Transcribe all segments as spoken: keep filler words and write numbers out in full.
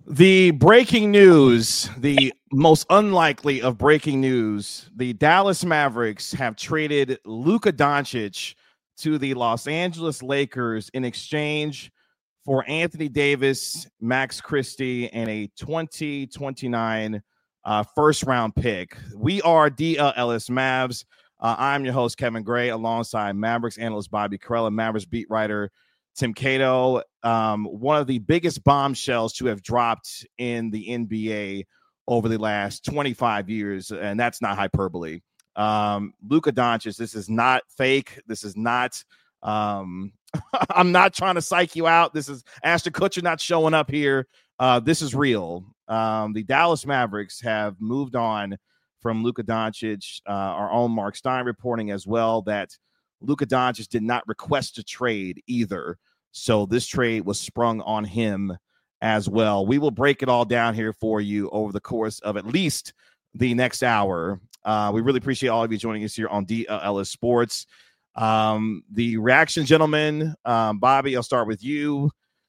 The breaking news, the most unlikely of breaking news, the Dallas Mavericks have traded Luka Doncic to the Los Angeles Lakers in exchange for Anthony Davis, Max Christie, and a twenty twenty-nine uh, first round pick. We are D L Ellis Mavs. Uh, I'm your host, Kevin Gray, alongside Mavericks analyst Bobby Karalla, Mavericks beat writer Tim Cato. Um, one of the biggest bombshells to have dropped in the N B A over the last twenty-five years, and that's not hyperbole. Um, Luka Doncic, this is not fake. This is not um, – I'm not trying to psych you out. This is Ashton Kutcher not showing up here. Uh, this is real. Um, the Dallas Mavericks have moved on from Luka Doncic. Uh, our own Mark Stein reporting as well that Luka Doncic did not request a trade either. So this trade was sprung on him as well. We will break it all down here for you over the course of at least the next hour. Uh, we really appreciate all of you joining us here on D L Ellis Sports. Um, the reaction, gentlemen, um, Bobby, I'll start with you.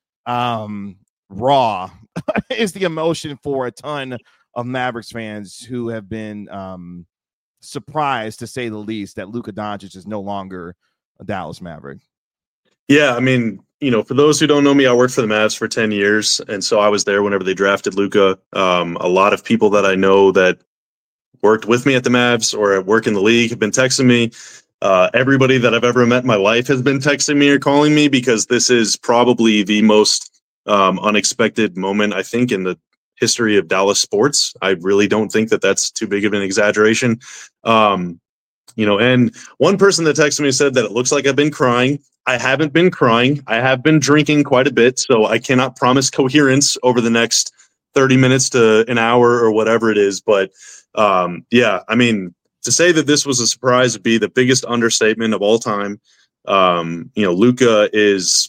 Um, raw is the emotion for a ton of Mavericks fans who have been um, surprised, to say the least, that Luka Doncic is no longer a Dallas Maverick. Yeah, I mean, you know, for those who don't know me, I worked for the Mavs for ten years, and so I was there whenever they drafted Luka. Um, a lot of people that I know that worked with me at the Mavs or at work in the league have been texting me. Uh, everybody that I've ever met in my life has been texting me or calling me because this is probably the most um, unexpected moment, I think, in the history of Dallas sports. I really don't think that that's too big of an exaggeration. Um, you know, and one person that texted me said that it looks like I've been crying. I haven't been crying. I have been drinking quite a bit, so I cannot promise coherence over the next thirty minutes to an hour or whatever it is. But um, yeah, I mean, to say that this was a surprise would be the biggest understatement of all time. Um, you know, Luka is,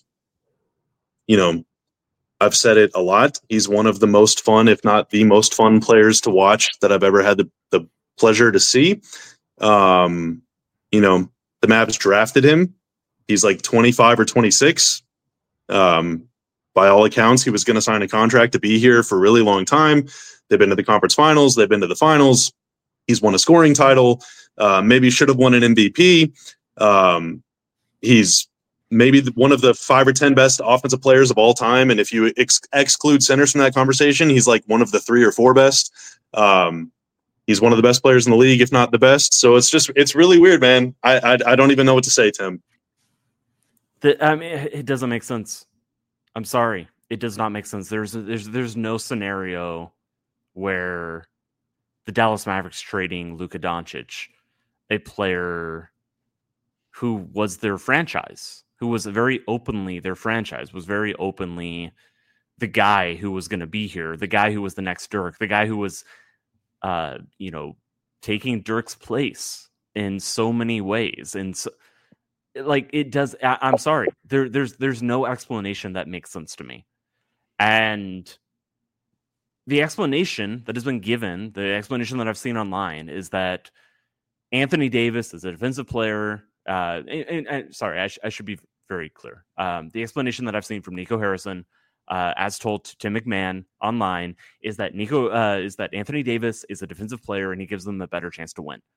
you know, I've said it a lot. He's one of the most fun, if not the most fun players to watch that I've ever had the, the pleasure to see. Um, you know, the Mavs drafted him. He's like twenty-five or twenty-six. Um, by all accounts, he was going to sign a contract to be here for a really long time. They've been to the conference finals. They've been to the finals. He's won a scoring title. Uh, maybe should have won an M V P. Um, he's maybe one of the five or ten best offensive players of all time. And if you ex- exclude centers from that conversation, he's like one of the three or four best. Um, he's one of the best players in the league, if not the best. So it's just, it's really weird, man. I, I, I don't even know what to say, Tim. The, I mean, it doesn't make sense. I'm sorry. It does not make sense. There's, there's, there's no scenario where the Dallas Mavericks trading Luka Doncic, a player who was their franchise, who was very openly their franchise, was very openly the guy who was going to be here, the guy who was the next Dirk, the guy who was, uh, you know, taking Dirk's place in so many ways. And so, like, it does. I, I'm sorry. There, there's, there's no explanation that makes sense to me. And the explanation that has been given, the explanation that I've seen online, is that Anthony Davis is a defensive player. Uh, and, and, and sorry, I, sh- I should be very clear. Um, the explanation that I've seen from Nico Harrison, uh, as told to Tim McMahon online, is that Nico uh, is that Anthony Davis is a defensive player and he gives them a better chance to win.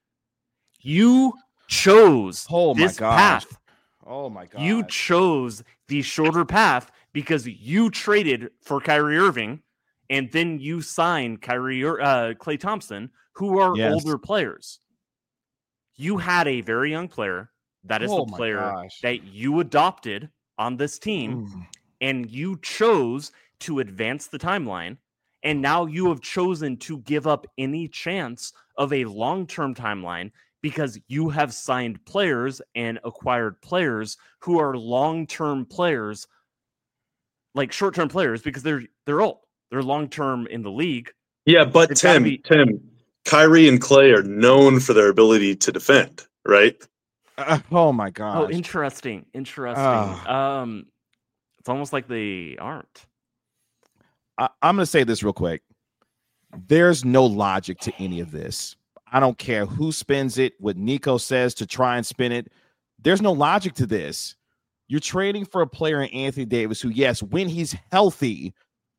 You chose oh my this gosh. path. Oh my god! You chose the shorter path because you traded for Kyrie Irving, and then you signed Kyrie, uh, Klay Thompson, who are Yes. older players. You had a very young player. That is Oh the my player gosh. that you adopted on this team, Mm. and you chose to advance the timeline. And now you have chosen to give up any chance of a long-term timeline because you have signed players and acquired players who are long-term players, like short-term players, because they're they're old. They're long-term in the league. Yeah, but It's gotta Tim, be- Tim, Kyrie and Klay are known for their ability to defend, right? Uh, oh my gosh. Oh, interesting. Interesting. Ah. Um, it's almost like they aren't. I, I'm going to say this real quick. There's no logic to any of this. I don't care who spins it, what Nico says to try and spin it. There's no logic to this. You're trading for a player in Anthony Davis who, yes, when he's healthy,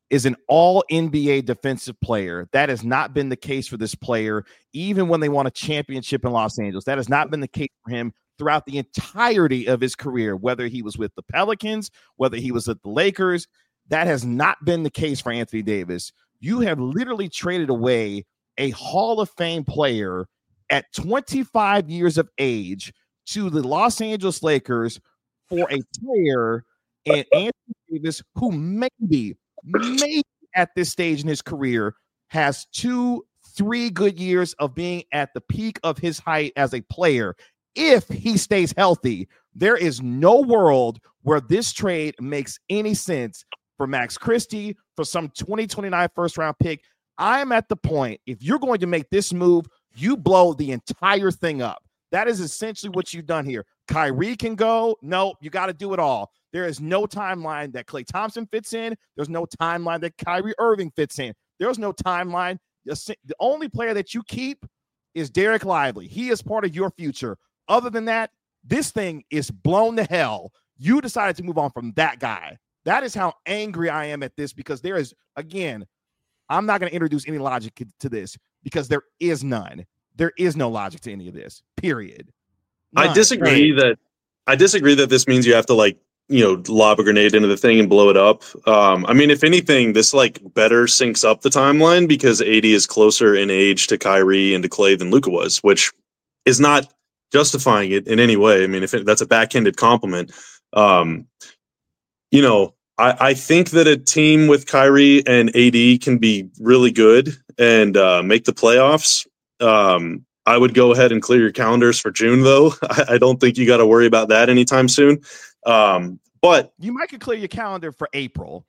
is an all N B A defensive player. That has not been the case for this player, even when they won a championship in Los Angeles. That has not been the case for him throughout the entirety of his career, whether he was with the Pelicans, whether he was at the Lakers. That has not been the case for Anthony Davis. You have literally traded away a Hall of Fame player at twenty-five years of age to the Los Angeles Lakers for a player and Anthony Davis, who maybe, maybe at this stage in his career has two, three good years of being at the peak of his height as a player. If he stays healthy, there is no world where this trade makes any sense for Max Christie, for some twenty twenty-nine first round pick. I'm at the point, if you're going to make this move, you blow the entire thing up. That is essentially what you've done here. Kyrie can go. No, you got to do it all. There is no timeline that Klay Thompson fits in. There's no timeline that Kyrie Irving fits in. There's no timeline. The only player that you keep is Derek Lively. He is part of your future. Other than that, this thing is blown to hell. You decided to move on from that guy. That is how angry I am at this, because there is, again, I'm not going to introduce any logic to this because there is none. There is no logic to any of this, period. None. I disagree that I disagree that this means you have to, like, you know, lob a grenade into the thing and blow it up. Um, I mean, if anything, this like better syncs up the timeline because A D is closer in age to Kyrie and to Klay than Luka was, which is not justifying it in any way. I mean, if it, that's a backhanded compliment, um, you know, I, I think that a team with Kyrie and A D can be really good and uh, make the playoffs. Um, I would go ahead and clear your calendars for June, though. I, I don't think you got to worry about that anytime soon. Um, but you might could clear your calendar for April.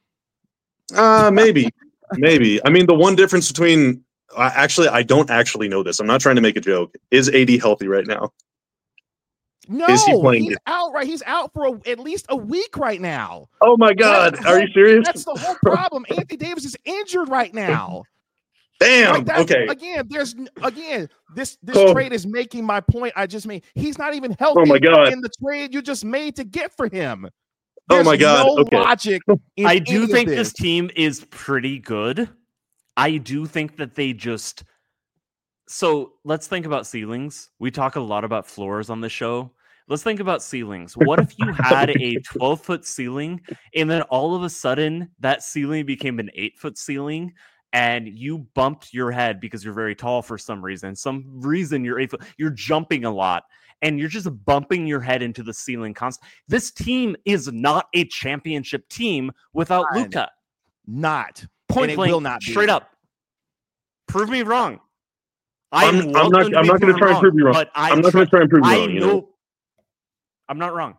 Uh, maybe, maybe. I mean, the one difference between uh, actually, I don't actually know this. I'm not trying to make a joke. Is A D healthy right now? No, is he playing he's it? out. Right, he's out for a, at least a week right now. Oh my God, That's are whole, you serious? That's the whole problem. Anthony Davis is injured right now. Damn. Like okay. Again, there's again this this oh. trade is making my point. I just made he's not even healthy. Oh my God. In the trade you just made to get for him. There's oh my God. No okay. logic. I do think this. this team is pretty good. I do think that they just. So let's think about ceilings. We talk a lot about floors on the show. Let's think about ceilings. What if you had a twelve foot ceiling and then all of a sudden that ceiling became an eight foot ceiling? And you bumped your head because you're very tall for some reason. Some reason you're eight foot, you're jumping a lot, and you're just bumping your head into the ceiling constantly. This team is not a championship team without Luka. Not point blank. Will not be. Straight up. Prove me wrong. I'm, I'm not. I'm not going to try and prove you wrong. But I I'm not going to try and prove you wrong. I know. You know? I'm not wrong.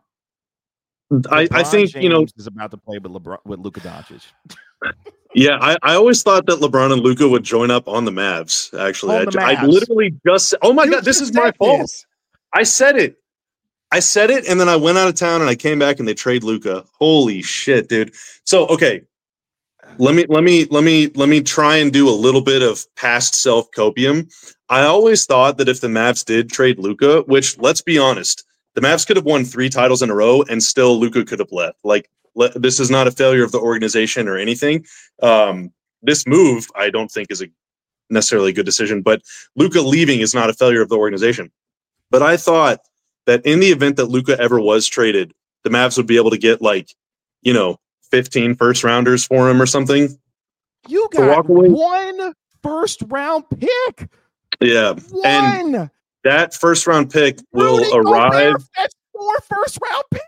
I, I think James you know is about to play with LeBron with Luka Doncic. Yeah, I, I always thought that LeBron and Luka would join up on the Mavs. Actually, I, Mavs. I literally just oh my you God, this is my fault. This. I said it. I said it, and then I went out of town and I came back and they trade Luka. Holy shit, dude. So okay, let me let me let me let me try and do a little bit of past self copium. I always thought that if the Mavs did trade Luka, which let's be honest, the Mavs could have won three titles in a row and still Luka could have left. Like. This is not a failure of the organization or anything. Um, this move, I don't think, is a necessarily a good decision, but Luka leaving is not a failure of the organization. But I thought that in the event that Luka ever was traded, the Mavs would be able to get like, you know, fifteen first rounders for him or something. You got one first round pick. Yeah. One. And that first round pick will Rudy arrive. Gobert, that's four first round picks.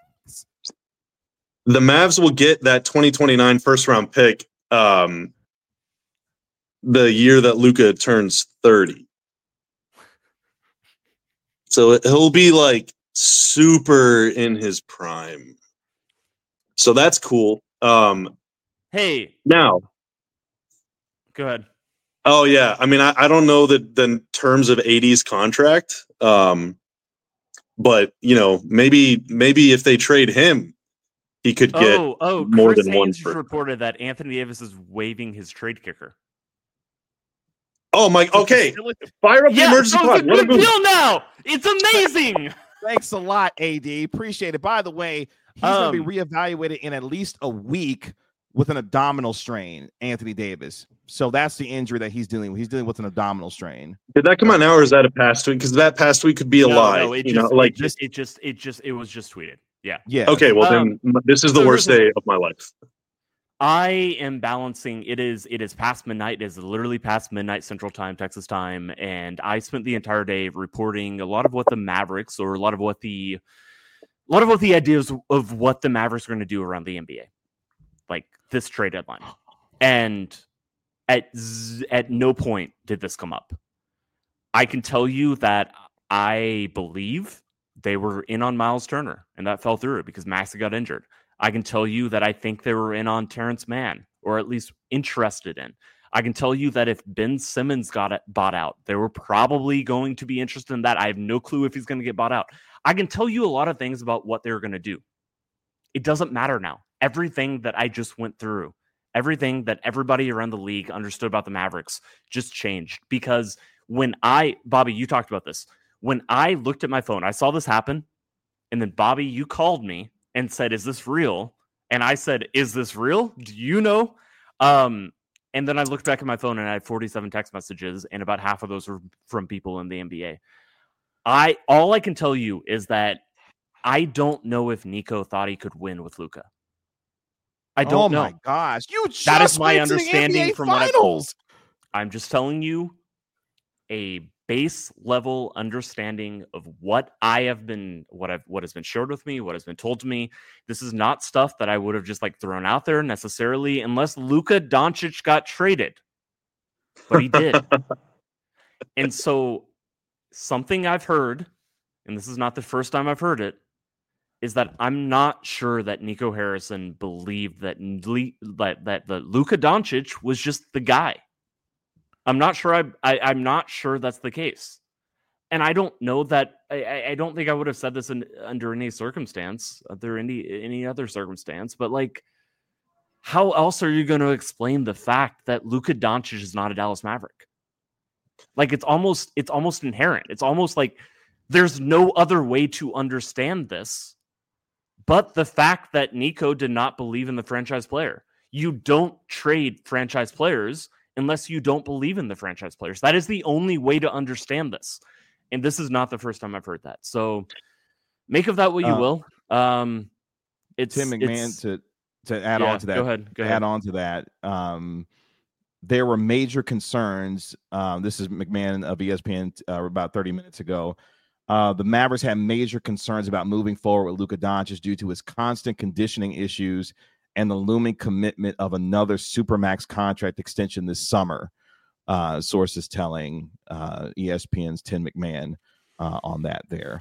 The Mavs will get that twenty twenty-nine first round pick um, the year that Luka turns thirty. So he'll be like super in his prime. So that's cool. Um, hey. Now. Go ahead. Oh, yeah. I mean, I, I don't know the, the terms of A D's contract. Um, but, you know, maybe maybe if they trade him, he could get oh, oh, more Chris than Haynes one. For... reported that Anthony Davis is waiving his trade kicker. Oh my! Okay, fire up yeah, the emergency so pod. It's a big deal now. It's amazing. Thanks a lot, A D. Appreciate it. By the way, he's um, going to be reevaluated in at least a week. with an abdominal strain, Anthony Davis. So that's the injury that he's dealing with. He's dealing with an abdominal strain. Did that come out now, or is that a past week? Because that past week could be a no, lie. No, it you just, know, like it just, it just, it just, it was just tweeted. Yeah. Yeah. Okay. Well, Um, then this is the so worst here's the- day of my life. I am balancing. It is. It is past midnight. It is literally past midnight Central Time, Texas time, and I spent the entire day reporting a lot of what the Mavericks, or a lot of what the, a lot of what the ideas of what the Mavericks are going to do around the N B A, like this trade deadline. And at z- at no point did this come up. I can tell you that I believe they were in on Miles Turner, and that fell through because Maxey got injured. I can tell you that I think they were in on Terrence Mann, or at least interested in. I can tell you that if Ben Simmons got it bought out, they were probably going to be interested in that. I have no clue if he's going to get bought out. I can tell you a lot of things about what they're going to do. It doesn't matter now. Everything that I just went through, everything that everybody around the league understood about the Mavericks just changed. Because when I, Bobby, you talked about this. When I looked at my phone, I saw this happen. And then, Bobby, you called me and said, is this real? And I said, is this real? Do you know? Um, and then I looked back at my phone and I had forty-seven text messages, and about half of those were from people in the N B A. I all I can tell you is that I don't know if Nico thought he could win with Luka. I don't oh know. Oh my gosh. You just That is my went to the understanding N B A from what I- finals. I'm just telling you a base level understanding of what I have been, what I've, what has been shared with me, what has been told to me. This is not stuff that I would have just like thrown out there necessarily, unless Luka Doncic got traded, but he did. And so something I've heard, and this is not the first time I've heard it, is that I'm not sure that Nico Harrison believed that Le- that, that the Luka Doncic was just the guy. I'm not sure. I, I I'm not sure that's the case, and I don't know that. I, I don't think I would have said this in, under any circumstance, under any any other circumstance. But like, how else are you going to explain the fact that Luka Doncic is not a Dallas Maverick? Like, it's almost it's almost inherent. It's almost like there's no other way to understand this, but the fact that Nico did not believe in the franchise player. You don't trade franchise players unless you don't believe in the franchise players. That is the only way to understand this. And this is not the first time I've heard that. So make of that what you uh, will. Um, it's Tim McMahon it's, to, to add yeah, on to that. Go ahead. Go add ahead. on to that. Um, there were major concerns. Um, this is McMahon of E S P N uh, about thirty minutes ago. Uh, the Mavericks had major concerns about moving forward with Luka Doncic due to his constant conditioning issues and the looming commitment of another Supermax contract extension this summer. Uh, sources telling uh, E S P N's Tim McMahon uh, on that there.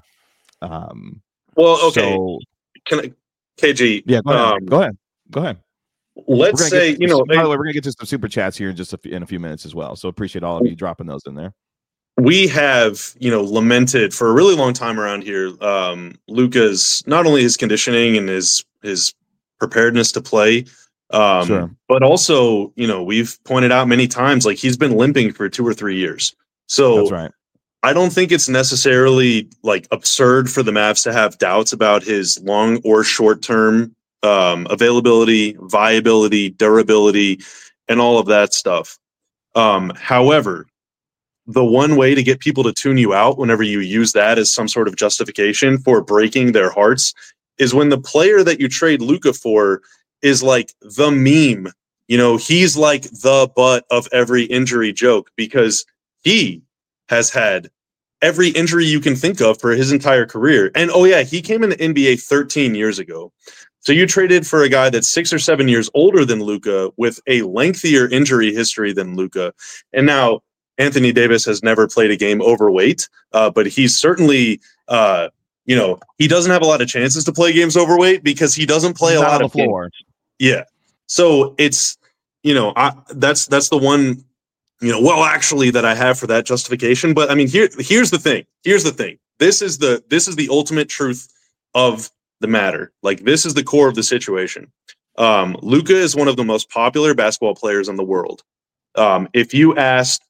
Um, well, okay. So, Can I, K G? Yeah, go ahead. Um, go ahead. Go ahead. Let's say, you know, by the way, we're going to get to some super chats here in just a few, in a few minutes as well. So appreciate all of you dropping those in there. We have, you know, lamented for a really long time around here, um, Luka's, not only his conditioning and his, his preparedness to play, um, sure. but also, you know, we've pointed out many times, like he's been limping for two or three years. So that's right. I don't think it's necessarily like absurd for the Mavs to have doubts about his long or short term um, availability, viability, durability, and all of that stuff. Um, however, the one way to get people to tune you out whenever you use that as some sort of justification for breaking their hearts is when the player that you trade Luka for is like the meme. You know, he's like the butt of every injury joke because he has had every injury you can think of for his entire career. And oh yeah, he came in the N B A thirteen years ago. So you traded for a guy that's six or seven years older than Luka with a lengthier injury history than Luka. And now Anthony Davis has never played a game overweight, uh, but he's certainly, uh, you know, he doesn't have a lot of chances to play games overweight because he doesn't play he's a lot on of the floor. Games. Yeah. So it's, you know, I, that's, that's the one, you know, well, actually that I have for that justification. But I mean, here, here's the thing. Here's the thing. This is the, this is the ultimate truth of the matter. Like, this is the core of the situation. Um, Luka is one of the most popular basketball players in the world. Um, if you asked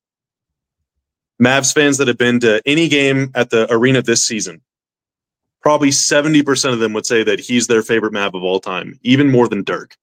Mavs fans that have been to any game at the arena this season, probably seventy percent of them would say that he's their favorite Mav of all time, even more than Dirk.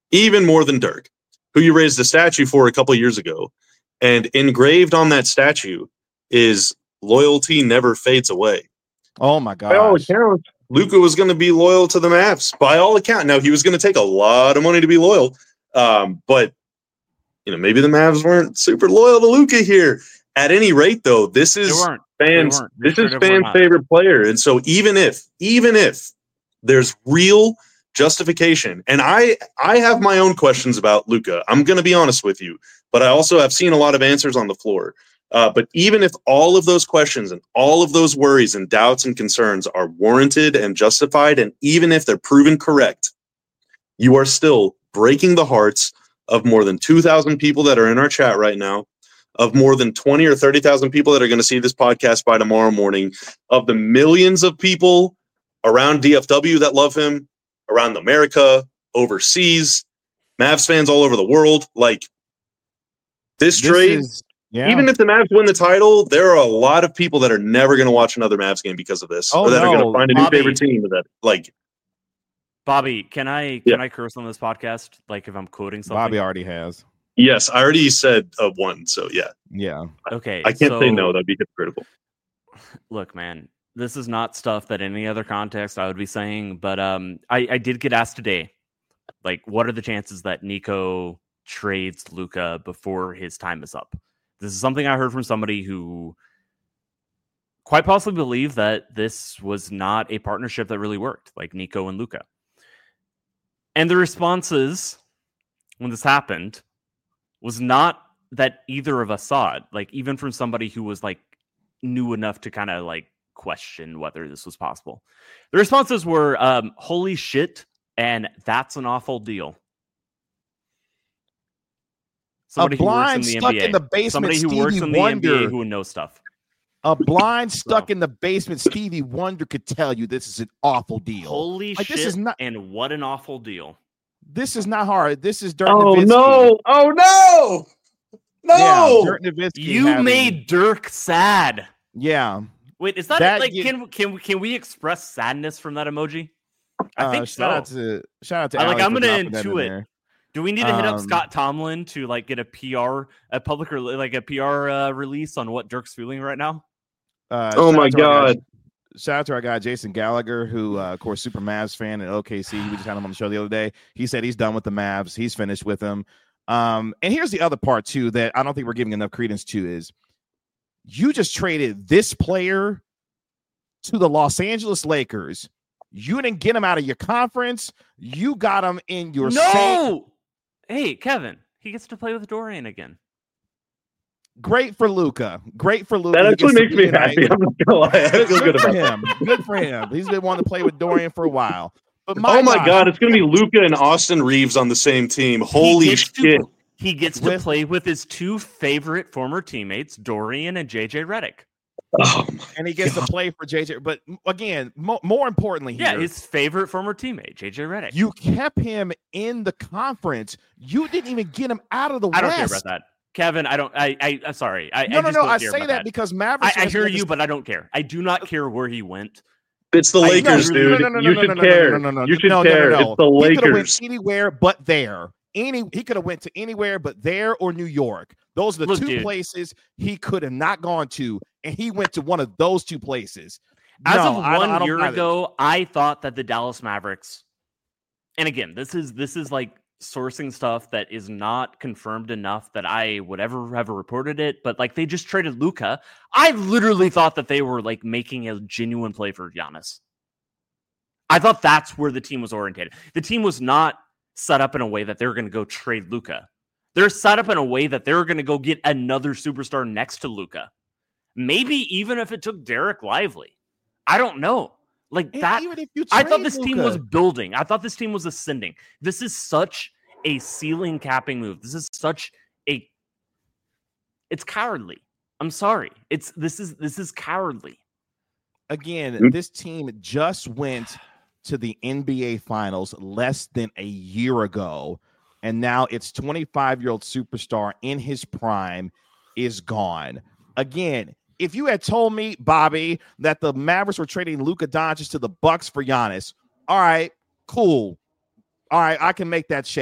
even more than Dirk, who you raised a statue for a couple years ago. And engraved on that statue is loyalty never fades away. Oh, my God. By all accounts, Luka was going to be loyal to the Mavs. By all accounts. Now, he was going to take a lot of money to be loyal. Um, but, you know, maybe the Mavs weren't super loyal to Luka here. At any rate, though, this is fans. This is fans' favorite player. And so even if, even if there's real justification, and I, I have my own questions about Luka, I'm going to be honest with you, but I also have seen a lot of answers on the floor. Uh, but even if all of those questions and all of those worries and doubts and concerns are warranted and justified, and even if they're proven correct, you are still breaking the hearts of more than two thousand people that are in our chat right now, of more than twenty or thirty thousand people that are going to see this podcast by tomorrow morning, of the millions of people around D F W that love him, around America, overseas, Mavs fans all over the world. Like, this, this trade, is, yeah. even if the Mavs win the title, there are a lot of people that are never going to watch another Mavs game because of this, oh, or that no. are going to find a Bobby, new favorite team. That, like, Bobby, can I can yeah. I curse on this podcast? Like, if I'm quoting something, Bobby already has. Yes, I already said uh, one. So yeah, yeah. Okay, I can't so, say no. That'd be hypocritical. Look, man, this is not stuff that in any other context I would be saying, but um, I, I did get asked today, like, what are the chances that Nico trades Luka before his time is up? This is something I heard from somebody who quite possibly believed that this was not a partnership that really worked, like Nico and Luka. And the responses when this happened was not that either of us saw it, like, even from somebody who was like knew enough to kind of like question whether this was possible. The responses were, um, holy shit, and that's an awful deal. Somebody a blind who works in the stuck N B A. in the basement, Somebody who Stevie works in the Wonder. N B A who would know stuff. A blind stuck so. in the basement, Stevie Wonder could tell you this is an awful deal. Holy like, shit, this is not, and what an awful deal. This is not hard. This is Dirk oh, Nowitzki. no. Oh, no. No. Yeah, Dirk Nowitzki you having, made Dirk sad. Yeah. Wait, is that, that like, get, can can can we express sadness from that emoji? I uh, think shout so. Out to, shout out to I, like, I'm going to intuit. In Do we need to hit um, up Scott Tomlin to like get a P R, a public, re- like a P R uh, release on what Dirk's feeling right now? Uh, oh my God. Guy, shout out to our guy, Jason Gallagher, who, uh, of course, super Mavs fan at O K C. We just had him on the show the other day. He said he's done with the Mavs. He's finished with them. Um, and here's the other part, too, that I don't think we're giving enough credence to is you just traded this player to the Los Angeles Lakers. You didn't get him out of your conference. You got him in your no. same. Hey, Kevin, he gets to play with Dorian again. Great for Luka. Great for Luka. That actually makes me happy. I'm not gonna lie. I feel good about him. Good for him. He's been wanting to play with Dorian for a while. But my oh my gosh, God, it's gonna be Luka and Austin Reeves on the same team. Holy he shit! To, he gets with, to play with his two favorite former teammates, Dorian and J J Redick. Oh and he gets God. to play for J J. But again, mo- more importantly, here, yeah, his favorite former teammate, J J Redick. You kept him in the conference. You didn't even get him out of the I West. don't care about that. Kevin, I don't. I. I I'm sorry. I, no, I no, no. I say that, that because Mavericks. I, I hear you, but I don't care. I do not care where he went. It's the Lakers, I, no, dude. No, no, no, you no, should no, no, care. No, no, no, no, you should no, care. No, no, no. It's the he Lakers. He could have went anywhere but there. Any. He could have went to anywhere but there or New York. Those are the Look, two dude. places he could have not gone to, and he went to one of those two places. As no, of one I, I year I ago, I thought that the Dallas Mavericks, and again, this is this is like sourcing stuff that is not confirmed enough that I would ever have reported it, but like they just traded Luka. I literally thought that they were like making a genuine play for Giannis. I thought that's where the team was oriented. The team was not set up in a way that they were going to go trade Luka. They're set up in a way that they're going to go get another superstar next to Luka. Maybe even if it took Derek Lively. I don't know. Like and that. Even if you I thought this Luka. team was building. I thought this team was ascending. This is such a ceiling capping move. This is such a. It's cowardly. I'm sorry. It's this is this is cowardly. Again, mm-hmm. This team just went to the N B A Finals less than a year ago, and now its twenty-five-year-old superstar in his prime is gone. Again, if you had told me, Bobby, that the Mavericks were trading Luka Doncic to the Bucks for Giannis, all right, cool. All right, I can make that shake.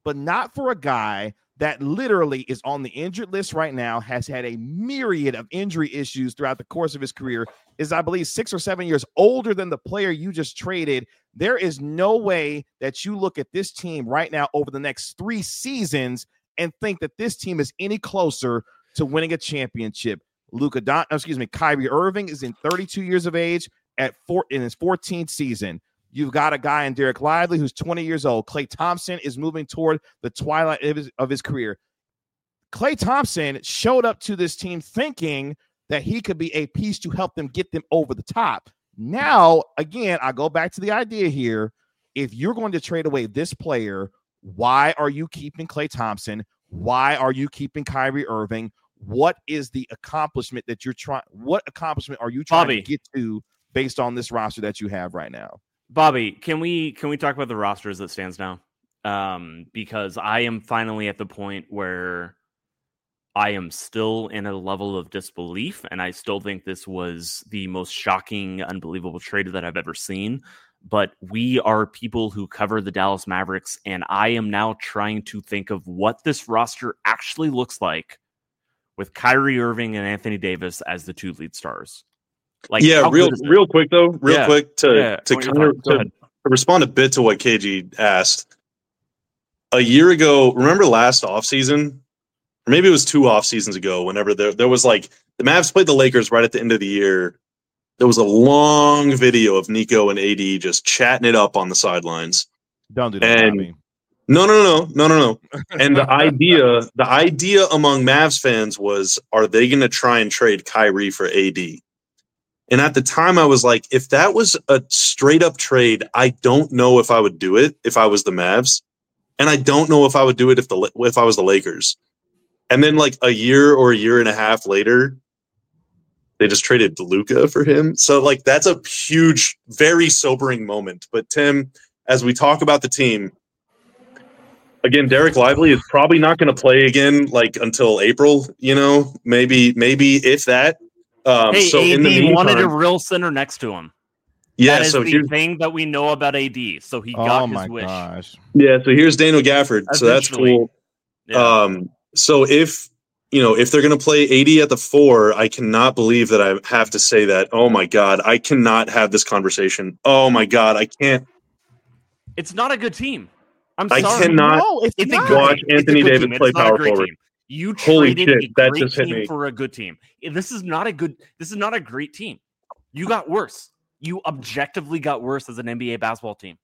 but not for a guy that literally is on the injured list right now, has had a myriad of injury issues throughout the course of his career, is, I believe, six or seven years older than the player you just traded. There is no way that you look at this team right now over the next three seasons and think that this team is any closer to winning a championship. Luka Don, excuse me, Kyrie Irving is in thirty-two years of age at four in his fourteenth season. You've got a guy in Derek Lively who's twenty years old. Klay Thompson is moving toward the twilight of his, of his career. Klay Thompson showed up to this team thinking that he could be a piece to help them get them over the top. Now, again, I go back to the idea here. If you're going to trade away this player, why are you keeping Klay Thompson? Why are you keeping Kyrie Irving? What is the accomplishment that you're trying? What accomplishment are you trying Bobby. to get to based on this roster that you have right now? Bobby, can we can we talk about the roster as it stands now? Um, because I am finally at the point where I am still in a level of disbelief, and I still think this was the most shocking, unbelievable trade that I've ever seen. But we are people who cover the Dallas Mavericks, and I am now trying to think of what this roster actually looks like with Kyrie Irving and Anthony Davis as the two lead stars. Like, yeah, real real quick though, real yeah. quick to yeah. to, kind of, to, to respond a bit to what K G asked. A year ago, remember last offseason, or maybe it was two off seasons ago, whenever there there was like the Mavs played the Lakers right at the end of the year. There was a long video of Nico and A D just chatting it up on the sidelines. Don't do that. And Bobby. no, no, no, no, no, no. And the idea, the idea among Mavs fans was, are they going to try and trade Kyrie for A D? And at the time, I was like, if that was a straight up trade, I don't know if I would do it if I was the Mavs, and I don't know if I would do it if the if I was the Lakers. And then, like a year or a year and a half later, they just traded Luka for him. So, like, that's a huge, very sobering moment. But Tim, as we talk about the team, again, Derek Lively is probably not going to play again, like until April. You know, maybe, maybe if that. Um, hey, so A D in the meantime, wanted a real center next to him. Yeah, that is so the here's, thing that we know about A D. So he Oh got my his wish. gosh. yeah, so here's Daniel Gafford. So that's Eventually. cool. Yeah. Um, so if you know if they're going to play A D at the four, I cannot believe that I have to say that. Oh my god, I cannot have this conversation. Oh my god, I can't. It's not a good team. I'm I sorry. cannot No, it's, It's not. a good watch team. It's Anthony a good Davis team. play It's not power a great forward. team. You Holy traded shit, a that great just hit team me. for a good team. This is not a good. This is not a great team. You got worse. You objectively got worse as an N B A basketball team.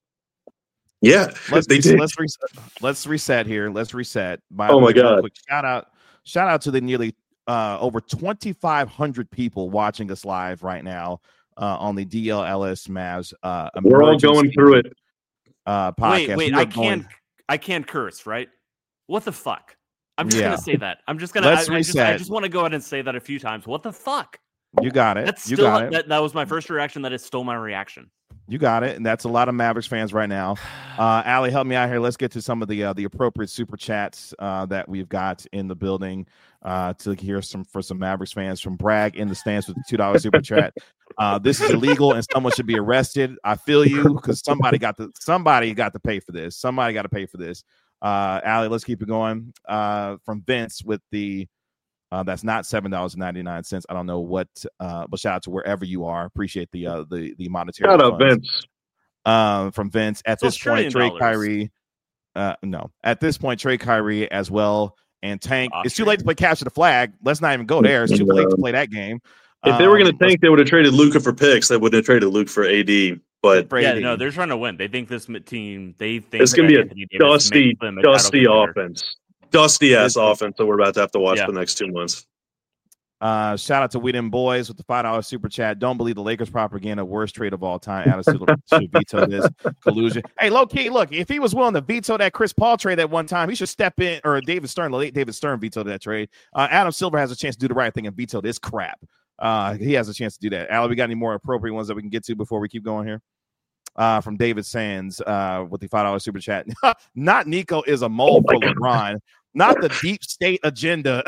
Yeah, Let's they re- did. let's reset. Let's reset here. Let's reset. By Oh the my way, real God. quick, shout out, shout out to the nearly uh, over twenty-five hundred people watching us live right now uh, on the D L L S Mavs. Uh, We're all going through it. Uh, podcast. Wait, wait. We are I going- can't. I can't curse, right? What the fuck? I'm just Yeah. gonna say that. I'm just gonna. Let's I, I just, I reset. just want to go ahead and say that a few times. What the fuck? You got it. That's you still. got it. That, that was my first reaction. That is still my reaction. You got it, and that's a lot of Mavericks fans right now. Uh, Allie, help me out here. Let's get to some of the uh, the appropriate super chats uh, that we've got in the building uh, to hear some for some Mavericks fans. From Bragg in the stands with the two dollar super chat. Uh, this is illegal, and someone should be arrested. I feel you because somebody got to somebody got to pay for this. Somebody got to pay for this. Uh, Allie, let's keep it going. Uh, from Vince with the. Uh, that's not seven dollars and ninety nine cents. I don't know what, uh, but shout out to wherever you are. Appreciate the uh, the the monetary. Shout out, funds. Vince. Um, from Vince. At So this it's point, trillion trade dollars. Kyrie. Uh, no, at this point, trade Kyrie as well and tank. It's too Austrian. late to play capture the flag. Let's not even go there. It's too late to play that game. If they were going Um, to tank, they would have traded Luka for picks. They wouldn't have traded Luke for A D. But for Yeah, A D. no, they're trying to win. They think this m- team. They think it's going to that be Anthony a Davis dusty, makes them a title dusty contender. offense. Dusty ass It's- offense that we're about to have to watch Yeah. the next two months. Uh, shout out to We Dem Boys with the five dollar super chat. Don't believe the Lakers propaganda. Worst trade of all time. Adam Silver should veto this collusion. Hey, low key, look, if he was willing to veto that Chris Paul trade at one time, he should step in. Or David Stern, the late David Stern vetoed that trade. Uh, Adam Silver has a chance to do the right thing and veto this crap. Uh, he has a chance to do that. Allie, we got any more appropriate ones that we can get to before we keep going here? Uh, from David Sands uh, with the five dollar super chat. Not Nico is a mole Oh for my God. LeBron. Not the deep state agenda.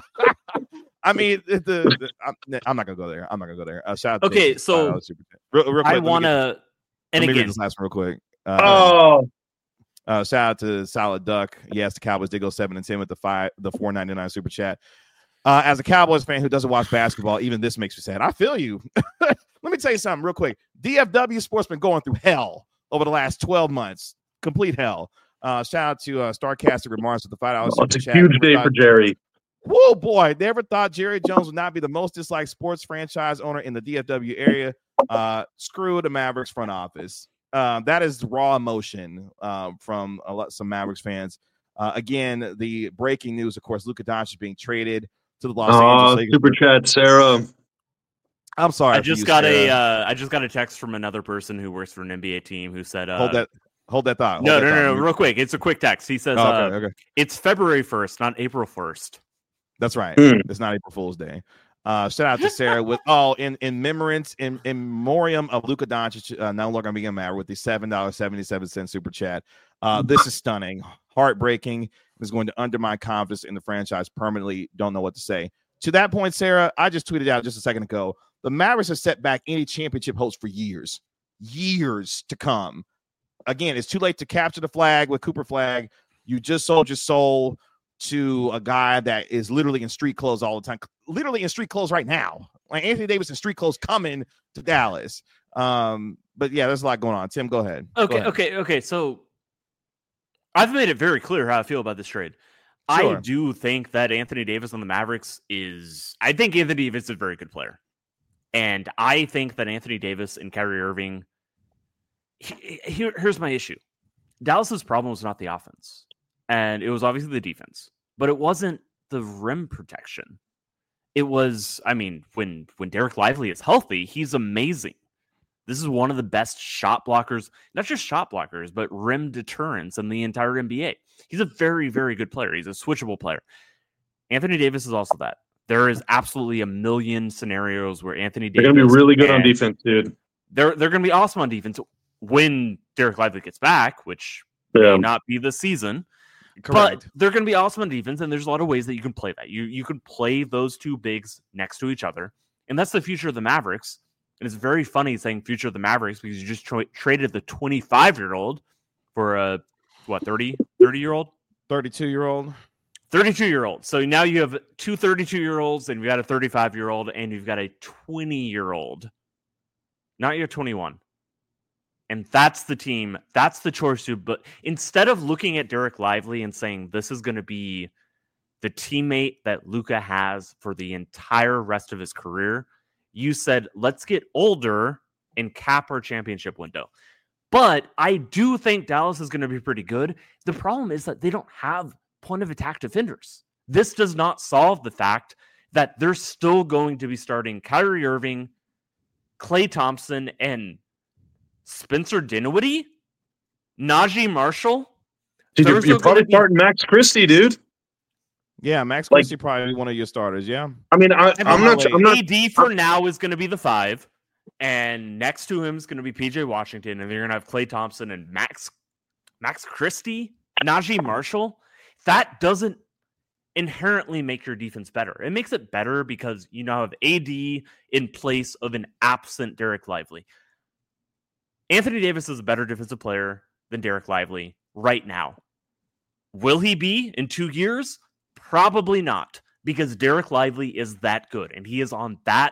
I mean, the, the I'm, I'm not gonna go there. I'm not gonna go there. Uh, shout out to Okay, David, so five dollar super chat. real, real quick, I let me want get- to. Let And me read again, this last one real quick. Uh, Oh, Uh, shout out to Solid Duck. Yes, the Cowboys did go seven and ten with the five, the four ninety nine super chat. Uh, as a Cowboys fan who doesn't watch basketball, even this makes me sad. I feel you. Let me tell you something real quick. D F W sports been going through hell over the last twelve months. Complete hell. Uh, shout out to uh, Starcaster Remarks with the five dollars. Oh, it's a chat. huge day thought, for Jerry. Whoa, boy. Never thought Jerry Jones would not be the most disliked sports franchise owner in the D F W area. Uh, screw the Mavericks front office. Uh, that is raw emotion uh, from a lot, some Mavericks fans. Uh, again, the breaking news, of course, Luka Doncic being traded to the Los uh, Angeles Lakers. Super chat, Sarah. I'm sorry. I just you, got Sarah. a. Uh, I just got a text from another person who works for an N B A team who said, uh, "Hold that, hold that thought." Hold no, that no, thought. no, no, real quick. It's a quick text. He says, oh, okay, uh, okay. "It's February first, not April first." That's right. Mm. It's not April Fool's Day. Uh, shout out to Sarah with oh in in memorance in in memoriam of Luka Doncic, uh, no longer being a Maverick, with the seven dollars seventy seven cent super chat. Uh, this is stunning, heartbreaking. Is going to undermine confidence in the franchise permanently. Don't know what to say. To that point, Sarah, I just tweeted out just a second ago. The Mavericks have set back any championship hopes for years, years to come. Again, it's too late to capture the flag with Cooper Flag. You just sold your soul to a guy that is literally in street clothes all the time, literally in street clothes right now. Like Anthony Davis in street clothes coming to Dallas. Um, but yeah, there's a lot going on. Tim, go ahead. Okay, go ahead. okay, okay. So I've made it very clear how I feel about this trade. Sure. I do think that Anthony Davis on the Mavericks is. I think Anthony Davis is a very good player, and I think that Anthony Davis and Kyrie Irving. He, here, here's my issue: Dallas's problem was not the offense, and it was obviously the defense, but it wasn't the rim protection. It was, I mean, when when Derek Lively is healthy, he's amazing. This is one of the best shot blockers, not just shot blockers, but rim deterrents in the entire N B A. He's a very, very good player. He's a switchable player. Anthony Davis is also that. There is absolutely a million scenarios where Anthony Davis... They're going to be really good on defense, dude. They're, they're going to be awesome on defense when Derek Lively gets back, which yeah. may not be this season. Correct. But they're going to be awesome on defense, and there's a lot of ways that you can play that. You, you can play those two bigs next to each other, and that's the future of the Mavericks. And it's very funny saying future of the Mavericks because you just tra- traded the twenty-five-year-old for a, what, thirty, thirty-year-old? thirty-two-year-old. thirty-two-year-old. So now you have two thirty-two-year-olds, and you've got a thirty-five-year-old, and you've got a twenty-year-old. Not your twenty-one. And that's the team. That's the choice to. But instead of looking at Derek Lively and saying this is going to be the teammate that Luka has for the entire rest of his career, you said, let's get older and cap our championship window. But I do think Dallas is going to be pretty good. The problem is that they don't have point of attack defenders. This does not solve the fact that they're still going to be starting Kyrie Irving, Klay Thompson, and Spencer Dinwiddie, Najee Marshall. Dude, you're, you're probably starting be... Max Christie, dude. Yeah, Max Christie like, probably one of your starters. Yeah, I mean, I, I'm not. I'm not. A D for now is going to be the five, and next to him is going to be P J Washington, and you're going to have Klay Thompson and Max, Max Christie, Najee Marshall. That doesn't inherently make your defense better. It makes it better because you now have A D in place of an absent Derek Lively. Anthony Davis is a better defensive player than Derek Lively right now. Will he be in two years? Probably not, because Derek Lively is that good, and he is on that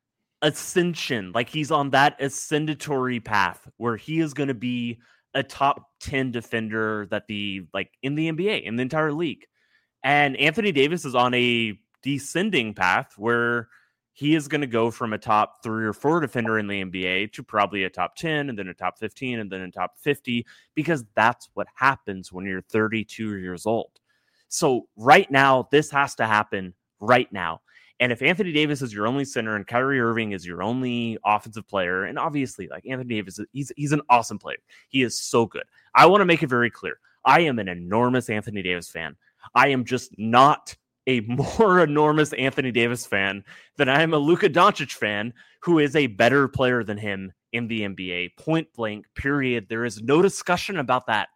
ascension, like he's on that ascendatory path where he is going to be a top ten defender that the like in the N B A, in the entire league. And Anthony Davis is on a descending path where he is going to go from a top three or four defender in the N B A to probably a top ten, and then a top fifteen, and then a top fifty, because that's what happens when you're thirty-two years old. So right now, this has to happen right now. And if Anthony Davis is your only center and Kyrie Irving is your only offensive player, and obviously, like Anthony Davis, he's he's an awesome player. He is so good. I want to make it very clear. I am an enormous Anthony Davis fan. I am just not a more enormous Anthony Davis fan than I am a Luka Doncic fan, who is a better player than him in the N B A. Point blank, period. There is no discussion about that.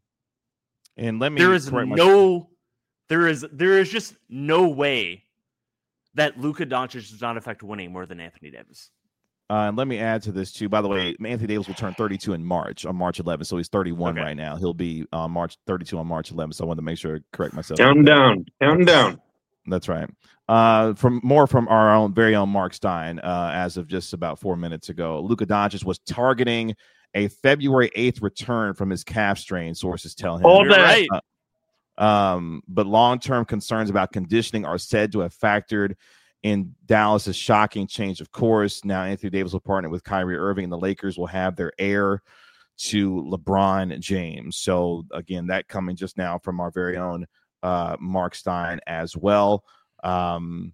And let me there is no... My- There is there is just no way that Luka Doncic does not affect winning more than Anthony Davis. Uh, and let me add to this too. By the way, Anthony Davis will turn thirty-two in March on March eleventh, so he's thirty-one Okay. right now. He'll be on March thirty-two on March eleventh. So I wanted to make sure to correct myself. Count down, count down. That's right. Uh, from more from our own very own Mark Stein, uh, as of just about four minutes ago, Luka Doncic was targeting a February eighth return from his calf strain. Sources tell him. All You're that. right. Uh, um, but long-term concerns about conditioning are said to have factored in Dallas's shocking change of course. Now Anthony Davis will partner with Kyrie Irving, and the Lakers will have their heir to LeBron James. So again, that coming just now from our very own uh, Mark Stein as well. Um,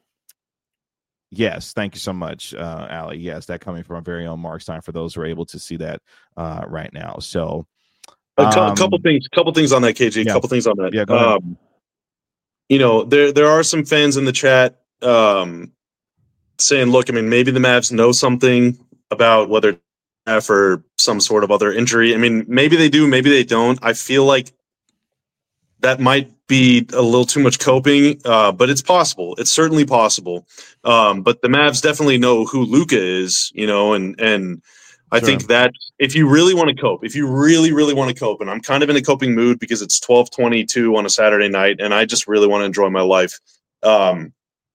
yes, thank you so much, uh, Allie. Yes, that coming from our very own Mark Stein for those who are able to see that uh, right now. So A, cu- um, a couple things, couple things on that, K G. A yeah. couple things on that. Yeah, go ahead. Um, you know, there there are some fans in the chat um, saying, "Look, I mean, maybe the Mavs know something about whether for some sort of other injury. I mean, maybe they do, maybe they don't. I feel like that might be a little too much coping, uh, but it's possible. It's certainly possible. Um, but the Mavs definitely know who Luka is, you know, and and I Sure. think that if you really want to cope, if you really, really want to cope, and I'm kind of in a coping mood because it's twelve twenty-two on a Saturday night, and I just really want to enjoy my life. Um,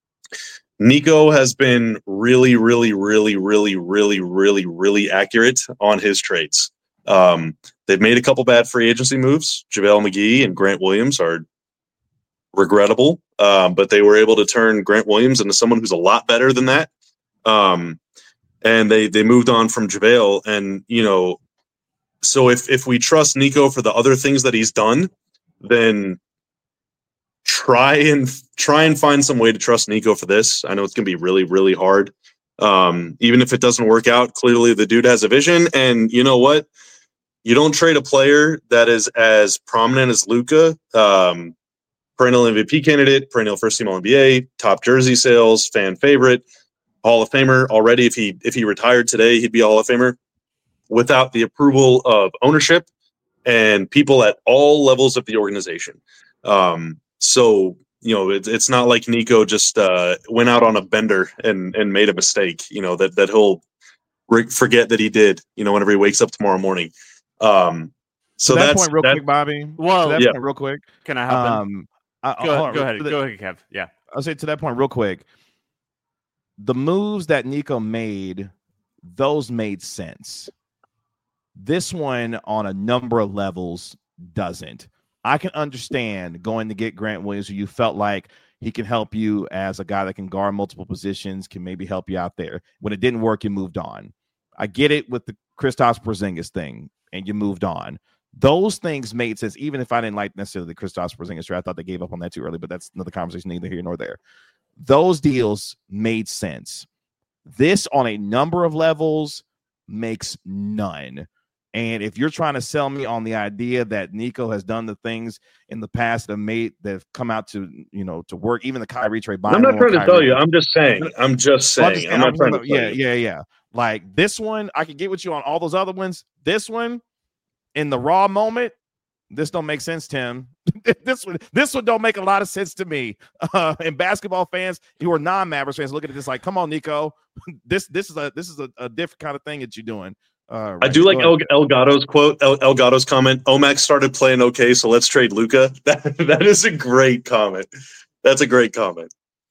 Nico has been really, really, really, really, really, really, really accurate on his traits. Um, they've made a couple bad free agency moves. JaVale McGee and Grant Williams are regrettable, um, but they were able to turn Grant Williams into someone who's a lot better than that. Um, and they they moved on from JaVale, and you know, so if if we trust Nico for the other things that he's done, then try and try and find some way to trust Nico for this. I know it's going to be really, really hard. Um, even if it doesn't work out, clearly the dude has a vision, and you know what? You don't trade a player that is as prominent as Luka, um, perennial M V P candidate, perennial first team All N B A, top jersey sales, fan favorite, Hall of Famer already. If he if he retired today, he'd be a Hall of Famer, without the approval of ownership and people at all levels of the organization. Um, so you know, it, it's not like Nico just uh, went out on a bender and and made a mistake. You know that that he'll re- forget that he did. You know, whenever he wakes up tomorrow morning. Um, so to that that's point, real that, quick, Bobby. Well, to that yeah. point, real quick. Can I hop in? Um, I, Go, hold on, go ahead. to the- Go ahead, Kev. Yeah. I'll say to that point real quick. The moves that Nico made, those made sense. This one on a number of levels doesn't. I can understand going to get Grant Williams, who you felt like he can help you as a guy that can guard multiple positions, can maybe help you out there. When it didn't work, you moved on. I get it with the Kristaps Porzingis thing, and you moved on. Those things made sense, even if I didn't like necessarily the Kristaps Porzingis trade. I thought they gave up on that too early, but that's another conversation neither here nor there. Those deals made sense. This on a number of levels makes none. And if you're trying to sell me on the idea that Nico has done the things in the past that have made that have come out to, you know, to work, even the Kyrie trade. I'm not trying to tell you. I'm just saying. I'm just Well, I'm saying. just I'm not I'm trying to just- tell yeah, you. yeah, yeah. Like this one, I can get with you on all those other ones. This one, in the raw moment, this don't make sense, Tim. this one, this one don't make a lot of sense to me. Uh, and basketball fans who are non-Mavericks fans looking at this like, come on, Nico, this this is a this is a, a different kind of thing that you're doing. Uh, I right do here. like Go El, ahead. El Gatto's quote, El, El Gatto's comment. Omax started playing okay, so let's trade Luka. That that is a great comment. That's a great comment.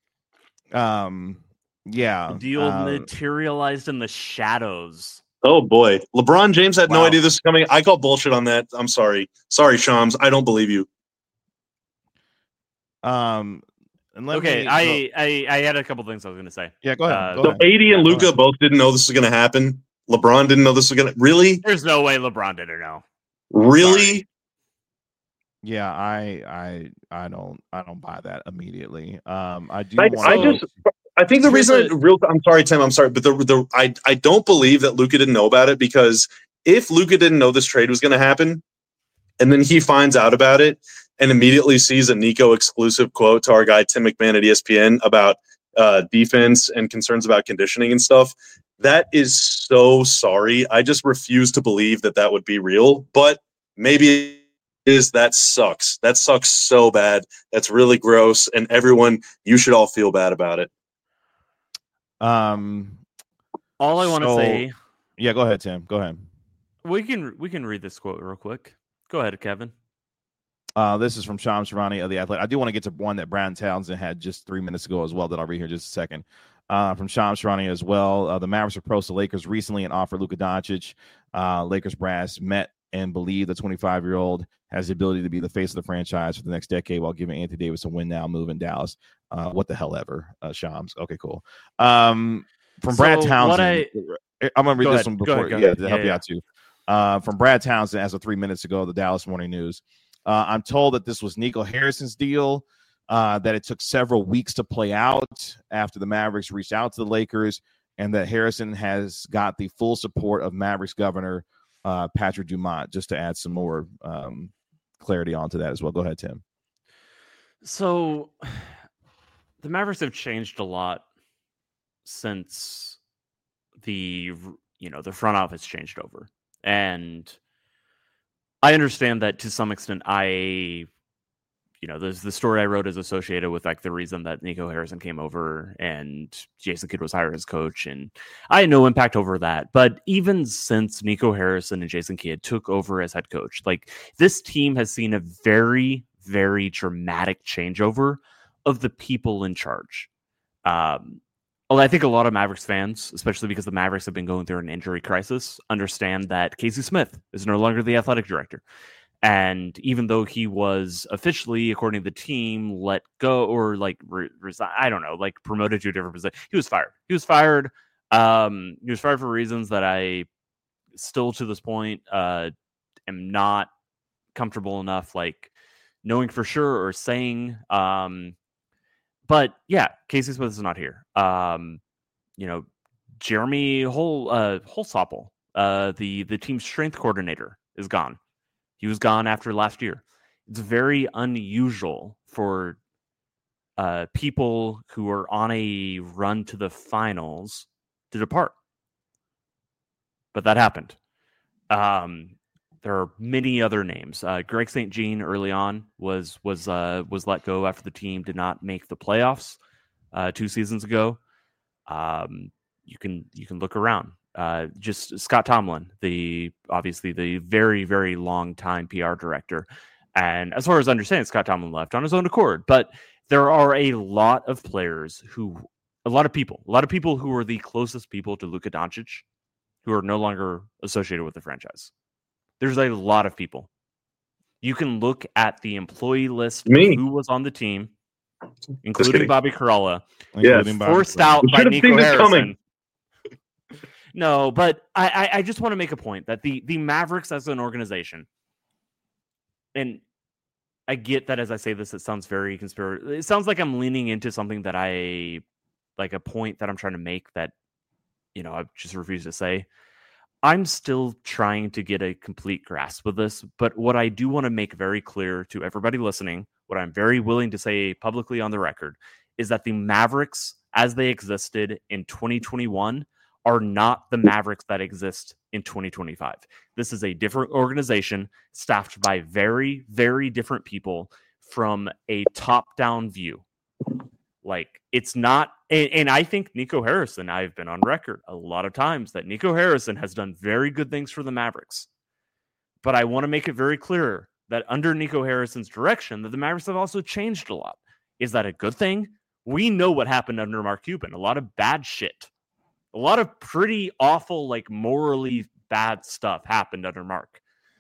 Um, yeah. The deal uh, materialized in the shadows. Oh boy, LeBron James had no Wow. idea this was coming. I call bullshit on that. I'm sorry, sorry, Shams. I don't believe you. um, and let Okay, me, I, I I had a couple things I was going to say. yeah, go ahead. uh, go So ahead. A D and Yeah, go Luka ahead. both didn't know this was going to happen. LeBron didn't know this was going to. Really, There's no way LeBron did or no. really. Yeah, I, I, I don't, I don't buy that immediately. Um, I do I, want I to. just, I think the Here's reason, a- I, real, I'm sorry, Tim, I'm sorry, but the, the, I, I don't believe that Luka didn't know about it, because if Luka didn't know this trade was going to happen, and then he finds out about it and immediately sees a Nico exclusive quote to our guy Tim McMahon at E S P N about uh, defense and concerns about conditioning and stuff, that is so sorry. I just refuse to believe that that would be real, but maybe is that sucks. That sucks so bad. That's really gross. And everyone, you should all feel bad about it. Um, All I want to So- say, Yeah, go ahead, Tim. Go ahead. we can we can read this quote real quick. Go ahead, Kevin. Uh, this is from Shams Charania of The Athletic. I do want to get to one that Brad Townsend had just three minutes ago as well that I'll read here in just a second. Uh, from Shams Charania as well. Uh, the Mavericks approached the Lakers recently and offered Luka Doncic. Uh, Lakers brass met and believe the twenty-five-year-old has the ability to be the face of the franchise for the next decade while giving Anthony Davis a win-now move in Dallas. Uh, what the hell ever, uh, Shams. Okay, cool. Um, from Brad So Townsend. what I- I'm going to read Go this ahead, one go before, ahead, go yeah, ahead. to help Yeah, you yeah. out too. Uh, from Brad Townsend, as of three minutes ago, the Dallas Morning News. Uh, I'm told that this was Nico Harrison's deal, uh, that it took several weeks to play out after the Mavericks reached out to the Lakers, and that Harrison has got the full support of Mavericks governor uh, Patrick Dumont, just to add some more um, clarity onto that as well. Go ahead, Tim. So the Mavericks have changed a lot since the you know the front office changed over, and I understand that to some extent. I you know there's the story I wrote is associated with like the reason that Nico Harrison came over and Jason Kidd was hired as coach, and I had no impact over that. But even since Nico Harrison and Jason Kidd took over as head coach, like this team has seen a very very dramatic changeover of the people in charge. Um, well, I think a lot of Mavericks fans, especially because the Mavericks have been going through an injury crisis, understand that Casey Smith is no longer the athletic director. And even though he was officially, according to the team, let go or like re- resign, I don't know, like promoted to a different position, he was fired. He was fired. Um, he was fired for reasons that I still to this point uh, am not comfortable enough, like knowing for sure or saying. Um, But yeah, Casey Smith is not here. Um, you know, Jeremy Hol uh, Holsopple, uh, the the team's strength coordinator, is gone. He was gone after last year. It's very unusual for uh, people who are on a run to the finals to depart, but that happened. Um, there are many other names. Uh, Greg Saint Jean early on was was uh, was let go after the team did not make the playoffs uh, two seasons ago. Um, you can you can look around. Uh, just Scott Tomlin, the obviously the very very long time P R director, and as far as I understand, Scott Tomlin left on his own accord. But there are a lot of players who, a lot of people, a lot of people who are the closest people to Luka Doncic, who are no longer associated with the franchise. There's a lot of people. You can look at the employee list Me. of who was on the team, including kidding. Bobby Karalla, Yeah. Including Bobby forced Portis. out We by should have Nico seen this Harrison. coming. No, but I, I, I just want to make a point that the the Mavericks as an organization, and I get that as I say this, it sounds very conspiracy. It sounds like I'm leaning into something that I like a point that I'm trying to make that, you know, I just refuse to say. I'm still trying to get a complete grasp of this, but what I do want to make very clear to everybody listening, what I'm very willing to say publicly on the record, is that the Mavericks, as they existed in twenty twenty-one, are not the Mavericks that exist in twenty twenty-five. This is a different organization staffed by very, very different people from a top-down view. Like, it's not, and, and I think Nico Harrison, I've been on record a lot of times that Nico Harrison has done very good things for the Mavericks. But I want to make it very clear that under Nico Harrison's direction, that the Mavericks have also changed a lot. Is that a good thing? We know what happened under Mark Cuban. A lot of bad shit. A lot of pretty awful, like morally bad stuff happened under Mark.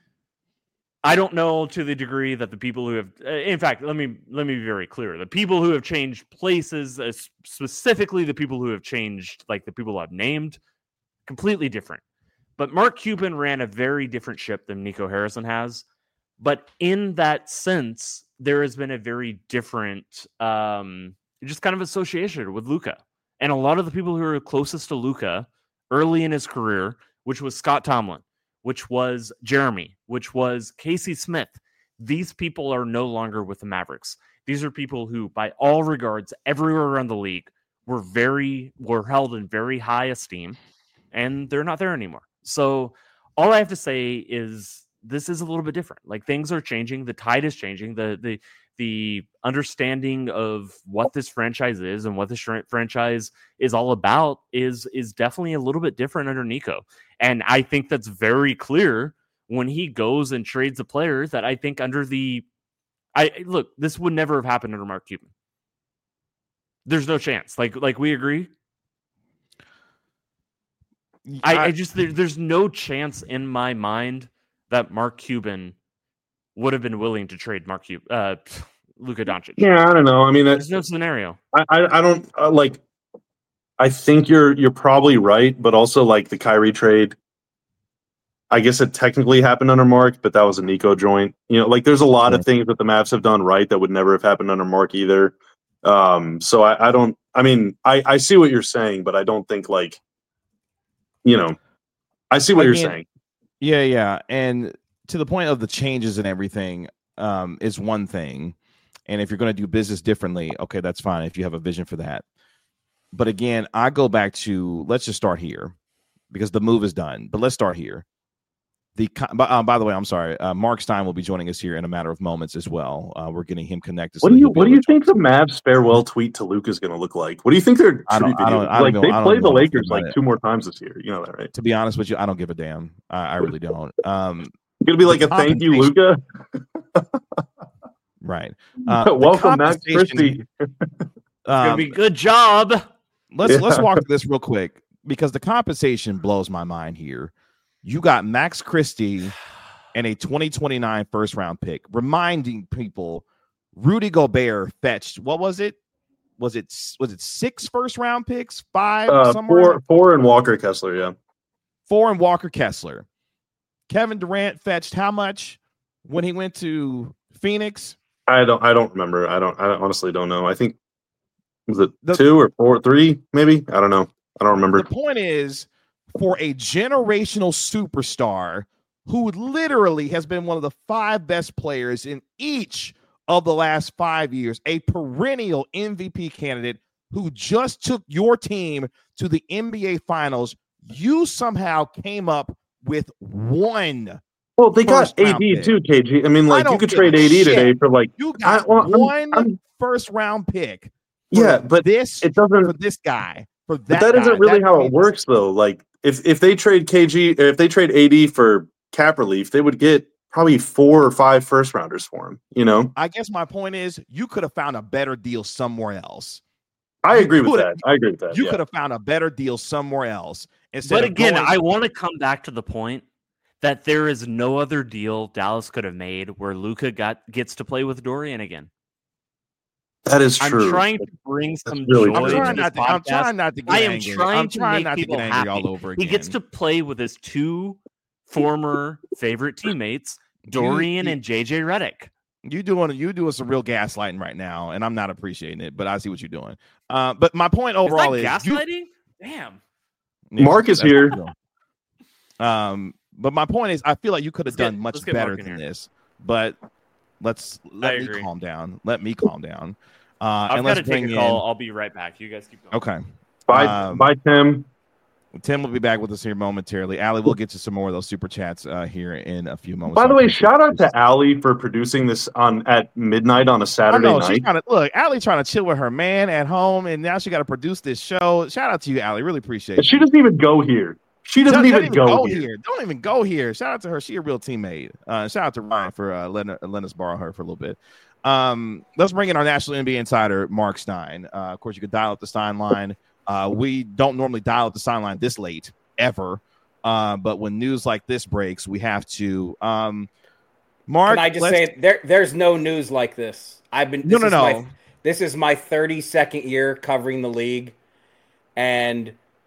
I don't know to the degree that the people who have, in fact, let me let me be very clear. The people who have changed places, uh, specifically the people who have changed, like the people I've named, completely different. But Mark Cuban ran a very different ship than Nico Harrison has. But in that sense, there has been a very different, um, just kind of association with Luka. And a lot of the people who are closest to Luka early in his career, which was Scott Tomlin, which was Jeremy, which was Casey Smith. These people are no longer with the Mavericks. These are people who, by all regards, everywhere around the league, were very were held in very high esteem, and they're not there anymore. So all I have to say is this is a little bit different. Like, things are changing. The tide is changing. The the the understanding of what this franchise is and what this franchise is all about is is definitely a little bit different under Nico. And I think that's very clear when he goes and trades a player that I think under the I look, this would never have happened under Mark Cuban. There's no chance. Like like we agree. I, I just there, there's no chance in my mind that Mark Cuban would have been willing to trade Mark Cuban, uh, Luka Doncic. Yeah, I don't know. I mean, there's no scenario. I I, I don't uh, like. I think you're you're probably right, but also like the Kyrie trade. I guess it technically happened under Mark, but that was a Nico joint. You know, like there's a lot yeah. of things that the Mavs have done right that would never have happened under Mark either. Um, so I, I don't. I mean, I I see what you're saying, but I don't think like. You know, I see what I you're mean, saying. Yeah, yeah. And to the point of the changes and everything um, is one thing. And if you're going to do business differently, okay, that's fine if you have a vision for that. But again, I go back to, let's just start here because the move is done. But let's start here. The uh, by the way, I'm sorry. Uh, Mark Stein will be joining us here in a matter of moments as well. Uh, we're getting him connected. What so do you What do you think the Mavs farewell tweet to Luka is going to look like? What do you think their I don't, I don't, I like? don't They know, play the Lakers like it. two more times this year. You know that, right? To be honest with you, I don't give a damn. I, I really don't. Um, it's going to be like a thank you, Luka. Right. Uh, Welcome, Max Christie. It's um, going to be good job. Let's yeah. let's walk through this real quick because the compensation blows my mind here. You got Max Christie and a twenty twenty-nine first round pick. Reminding people, Rudy Gobert fetched, what was it? Was it was it six first round picks? Five? Uh, four, four and Walker Kessler, yeah. Four and Walker Kessler. Kevin Durant fetched how much when he went to Phoenix? I don't I don't remember. I don't I honestly don't know. I think was it the, two or four, three, maybe? I don't know. I don't remember. The point is, for a generational superstar who literally has been one of the five best players in each of the last five years, a perennial M V P candidate who just took your team to the N B A Finals, you somehow came up with one. Well, they got A D too, K G. I mean, like, I you could trade A D shit. today for, like... You got I, well, one I'm, I'm, first-round pick. Yeah, but this it doesn't... For this guy. For that But that guy, isn't really that how means, it works, though. Like, if if they trade K G, if they trade A D for cap relief, they would get probably four or five first rounders for him. You know, I guess my point is you could have found a better deal somewhere else. I agree with that. I agree with that. You yeah. could have found a better deal somewhere else. But again, going- I want to come back to the point that there is no other deal Dallas could have made where Luka got gets to play with Dorian again. That is true. I'm trying to bring some really joy I'm trying, to not this to, I'm podcast. trying not to get I am angry. trying I'm to trying make not to people get angry happy. all over again. He gets to play with his two former favorite teammates, Dorian you, you, and J J Redick. You doing you doing some real gaslighting right now, and I'm not appreciating it. But I see what you're doing. Uh, but my point overall is, is gaslighting. You, Damn. Yeah, Mark is here. Um, but my point is, I feel like you could have done get, much better than here. this. But let's let I me agree. calm down. Let me calm down. Uh, I've and got let's to take bring a call. in, I'll be right back. You guys keep going. Okay. Bye, um, bye, Tim. Tim will be back with us here momentarily. Allie, we'll get to some more of those super chats uh, here in a few moments. By the so way, shout out to Allie for producing this on at midnight on a Saturday I know, night. She's trying to, look, Allie trying to chill with her man at home, and now she got to produce this show. Shout out to you, Allie. Really appreciate it. She doesn't even go here. She doesn't, doesn't even, even go, go here. here. Don't even go here. Shout out to her. She a real teammate. Uh, shout out to Ryan for uh, letting, letting us borrow her for a little bit. Um, let's bring in our national N B A insider, Mark Stein. Uh, of course, you could dial up the Stein line. Uh, we don't normally dial up the Stein line this late, ever. Uh, but when news like this breaks, we have to. Um, Mark, can I just say there? There's no news like this. I've been no, this no, is no. My, this is my thirty-second year covering the league, and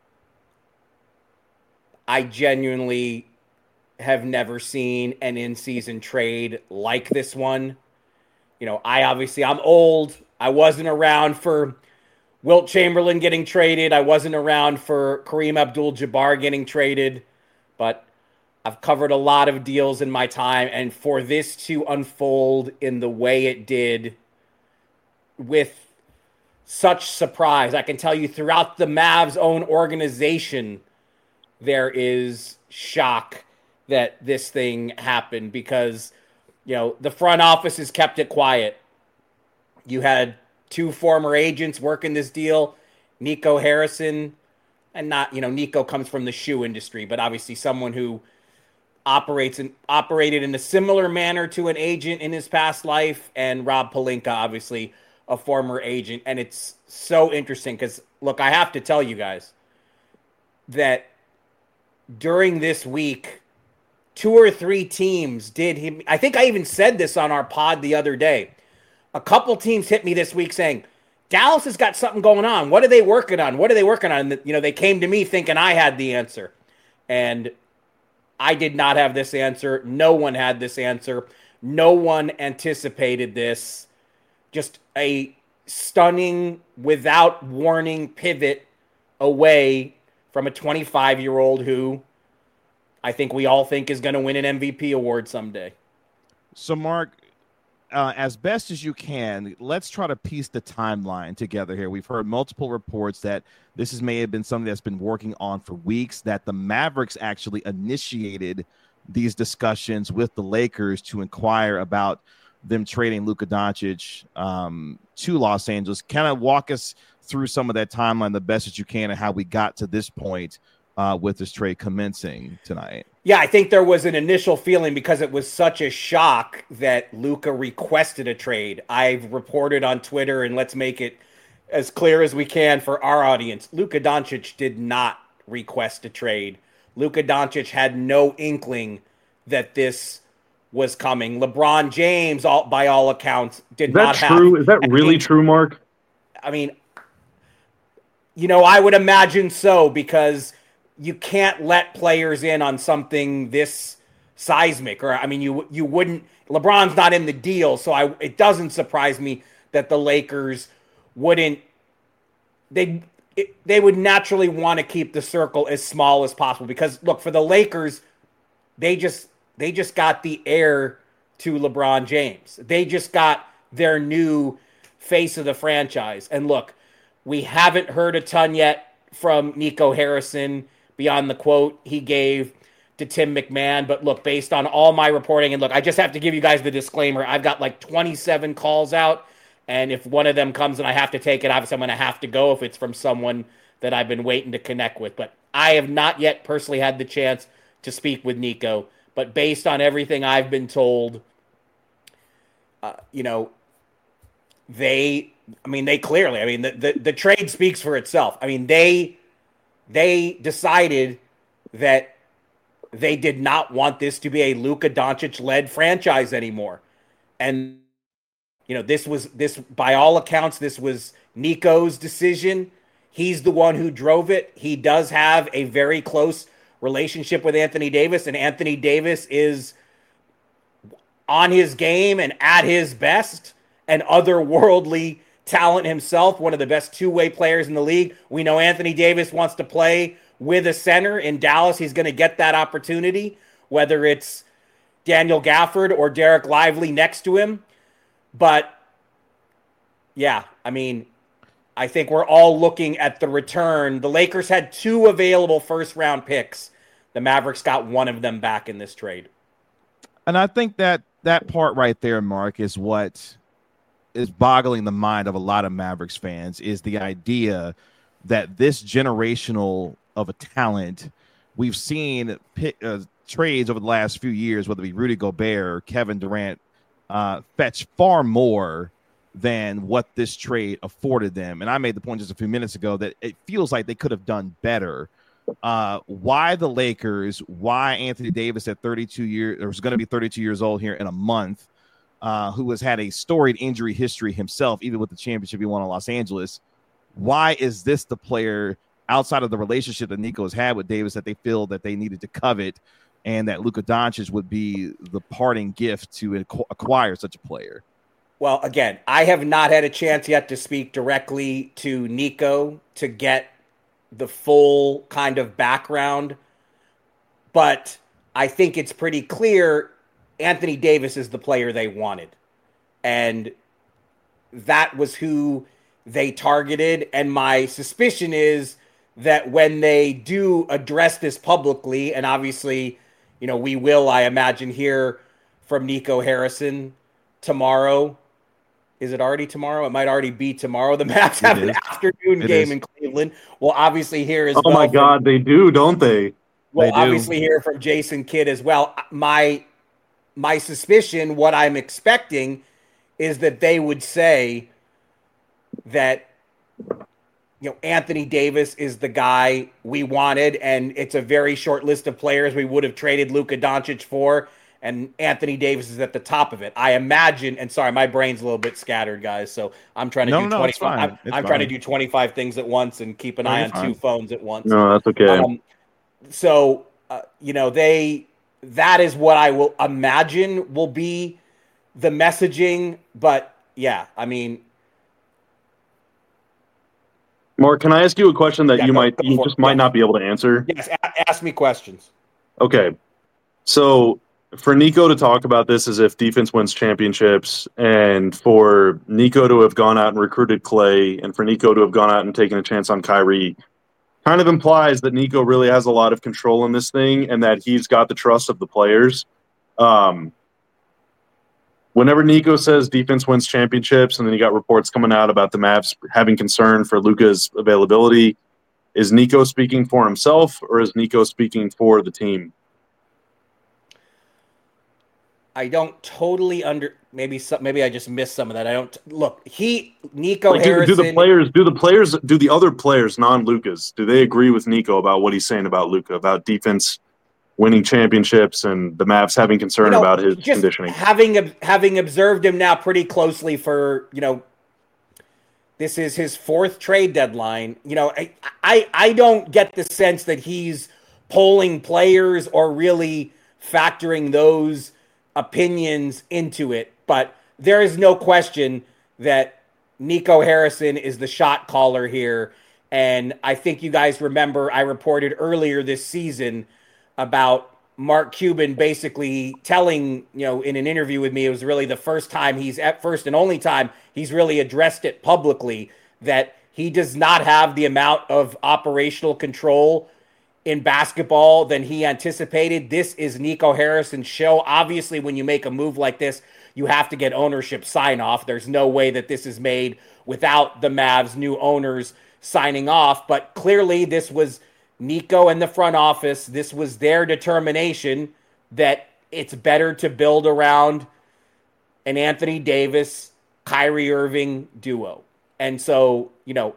I genuinely have never seen an in-season trade like this one. You know, I obviously I'm old. I wasn't around for Wilt Chamberlain getting traded. I wasn't around for Kareem Abdul-Jabbar getting traded, but I've covered a lot of deals in my time, and for this to unfold in the way it did with such surprise, I can tell you throughout the Mavs' own organization, there is shock that this thing happened because, you know, the front office has kept it quiet. you had two former agents working this deal, Nico Harrison, and not, you know, Nico comes from the shoe industry, but obviously someone who operates and operated in a similar manner to an agent in his past life, and Rob Pelinka, obviously a former agent. And it's so interesting because, look, I have to tell you guys that during this week, two or three teams did him. I think I even said this on our pod the other day. A couple teams hit me this week saying, Dallas has got something going on. What are they working on? What are they working on? And, you know, they came to me thinking I had the answer. And I did not have this answer. No one had this answer. No one anticipated this. Just a stunning, without warning pivot away from a twenty-five-year-old who I think we all think is going to win an M V P award someday. So, Mark, uh, as best as you can, let's try to piece the timeline together here. We've heard multiple reports that this is, may have been something that's been working on for weeks, that the Mavericks actually initiated these discussions with the Lakers to inquire about them trading Luka Doncic um, to Los Angeles. Kind of walk us through some of that timeline the best that you can and how we got to this point uh, with this trade commencing tonight. Yeah, I think there was an initial feeling because it was such a shock that Luka requested a trade. I've reported on Twitter, and let's make it as clear as we can for our audience. Luka Doncic did not request a trade. Luka Doncic had no inkling that this was coming. LeBron James, all, by all accounts, did not have. Is that true? Is that really true, Mark? I mean, you know, I would imagine so, because you can't let players in on something this seismic. Or, I mean, you you wouldn't. LeBron's not in the deal, so I it doesn't surprise me that the Lakers wouldn't. They it, they would naturally want to keep the circle as small as possible, because look, for the Lakers, they just they just got the heir to LeBron James. They just got their new face of the franchise. And look, we haven't heard a ton yet from Nico Harrison beyond the quote he gave to Tim McMahon. But look, based on all my reporting, and look, I just have to give you guys the disclaimer. I've got like twenty-seven calls out, and if one of them comes and I have to take it, obviously I'm going to have to go if it's from someone that I've been waiting to connect with. But I have not yet personally had the chance to speak with Nico. But based on everything I've been told, uh, you know, they, I mean, they clearly, I mean, the, the, the trade speaks for itself. I mean, they, they decided that they did not want this to be a Luka Doncic-led franchise anymore. And, you know, this was, this, by all accounts, this was Nico's decision. He's the one who drove it. He does have a very close relationship with Anthony Davis, and Anthony Davis is on his game and at his best, an otherworldly talent himself, one of the best two-way players in the league. We know Anthony Davis wants to play with a center in Dallas. He's going to get that opportunity, whether it's Daniel Gafford or Derek Lively next to him. But yeah, I mean, I think we're all looking at the return. The Lakers had two available first-round picks. The Mavericks got one of them back in this trade. And I think that that part right there, Mark, is what is boggling the mind of a lot of Mavericks fans, is the idea that this generational of a talent, we've seen pick, uh, trades over the last few years, whether it be Rudy Gobert or Kevin Durant, uh, fetch far more than what this trade afforded them. And I made the point just a few minutes ago that it feels like they could have done better. Uh, why the Lakers? Why Anthony Davis at thirty-two years, or is going to be thirty-two years old here in a month, uh, who has had a storied injury history himself, even with the championship he won in Los Angeles? Why is this the player outside of the relationship that Nico has had with Davis that they feel that they needed to covet, and that Luka Doncic would be the parting gift to acquire such a player? Well, again, I have not had a chance yet to speak directly to Nico to get the full kind of background, but I think it's pretty clear Anthony Davis is the player they wanted, and that was who they targeted. And my suspicion is that when they do address this publicly, and obviously, you know, we will, I imagine, hear from Nico Harrison tomorrow, Is it already tomorrow? It might already be tomorrow. The Mavs have an afternoon It game is. in Cleveland. We'll obviously hear as oh well. my from, God, they do, don't they? We'll They do. obviously hear from Jason Kidd as well. My my suspicion, what I'm expecting, is that they would say that you know Anthony Davis is the guy we wanted, and it's a very short list of players we would have traded Luka Doncic for. And Anthony Davis is at the top of it. I imagine, and sorry, my brain's a little bit scattered, guys. So I'm trying to No, do no, it's twenty-five. fine. I'm, It's I'm trying to fine. do twenty-five things at once and keep an No, eye you're on fine. two phones at once. No, that's okay. Um, so uh, you know, they that is what I will imagine will be the messaging. But yeah, I mean, Mark, can I ask you a question that Yeah, you go- might go you for just it. might Yes. not be able to answer? yes, a- ask me questions. Okay. So for Nico to talk about this as if defense wins championships, and for Nico to have gone out and recruited Clay, and for Nico to have gone out and taken a chance on Kyrie, kind of implies that Nico really has a lot of control in this thing and that he's got the trust of the players. Um, whenever Nico says defense wins championships, and then you got reports coming out about the Mavs having concern for Luka's availability, is Nico speaking for himself or is Nico speaking for the team? I don't totally under maybe some, maybe I just missed some of that. I don't look. He Nico Like, do, Harrison. do the players, do the players, do the other players, non-Lucas, do they agree with Nico about what he's saying about Luka, about defense winning championships and the Mavs having concern you know, about his just conditioning? Having having observed him now pretty closely for you know, this is his fourth trade deadline. You know, I I, I don't get the sense that he's polling players or really factoring those opinions into it. But there is no question that Nico Harrison is the shot caller here. And I think you guys remember I reported earlier this season about Mark Cuban basically telling, you know, in an interview with me, it was really the first time he's at first and only time he's really addressed it publicly, that he does not have the amount of operational control in basketball than he anticipated. This is Nico Harrison's show. Obviously, when you make a move like this, you have to get ownership sign off. There's no way that this is made without the Mavs' new owners signing off. But clearly, this was Nico and the front office. This was their determination that it's better to build around an Anthony Davis, Kyrie Irving duo. And so, you know,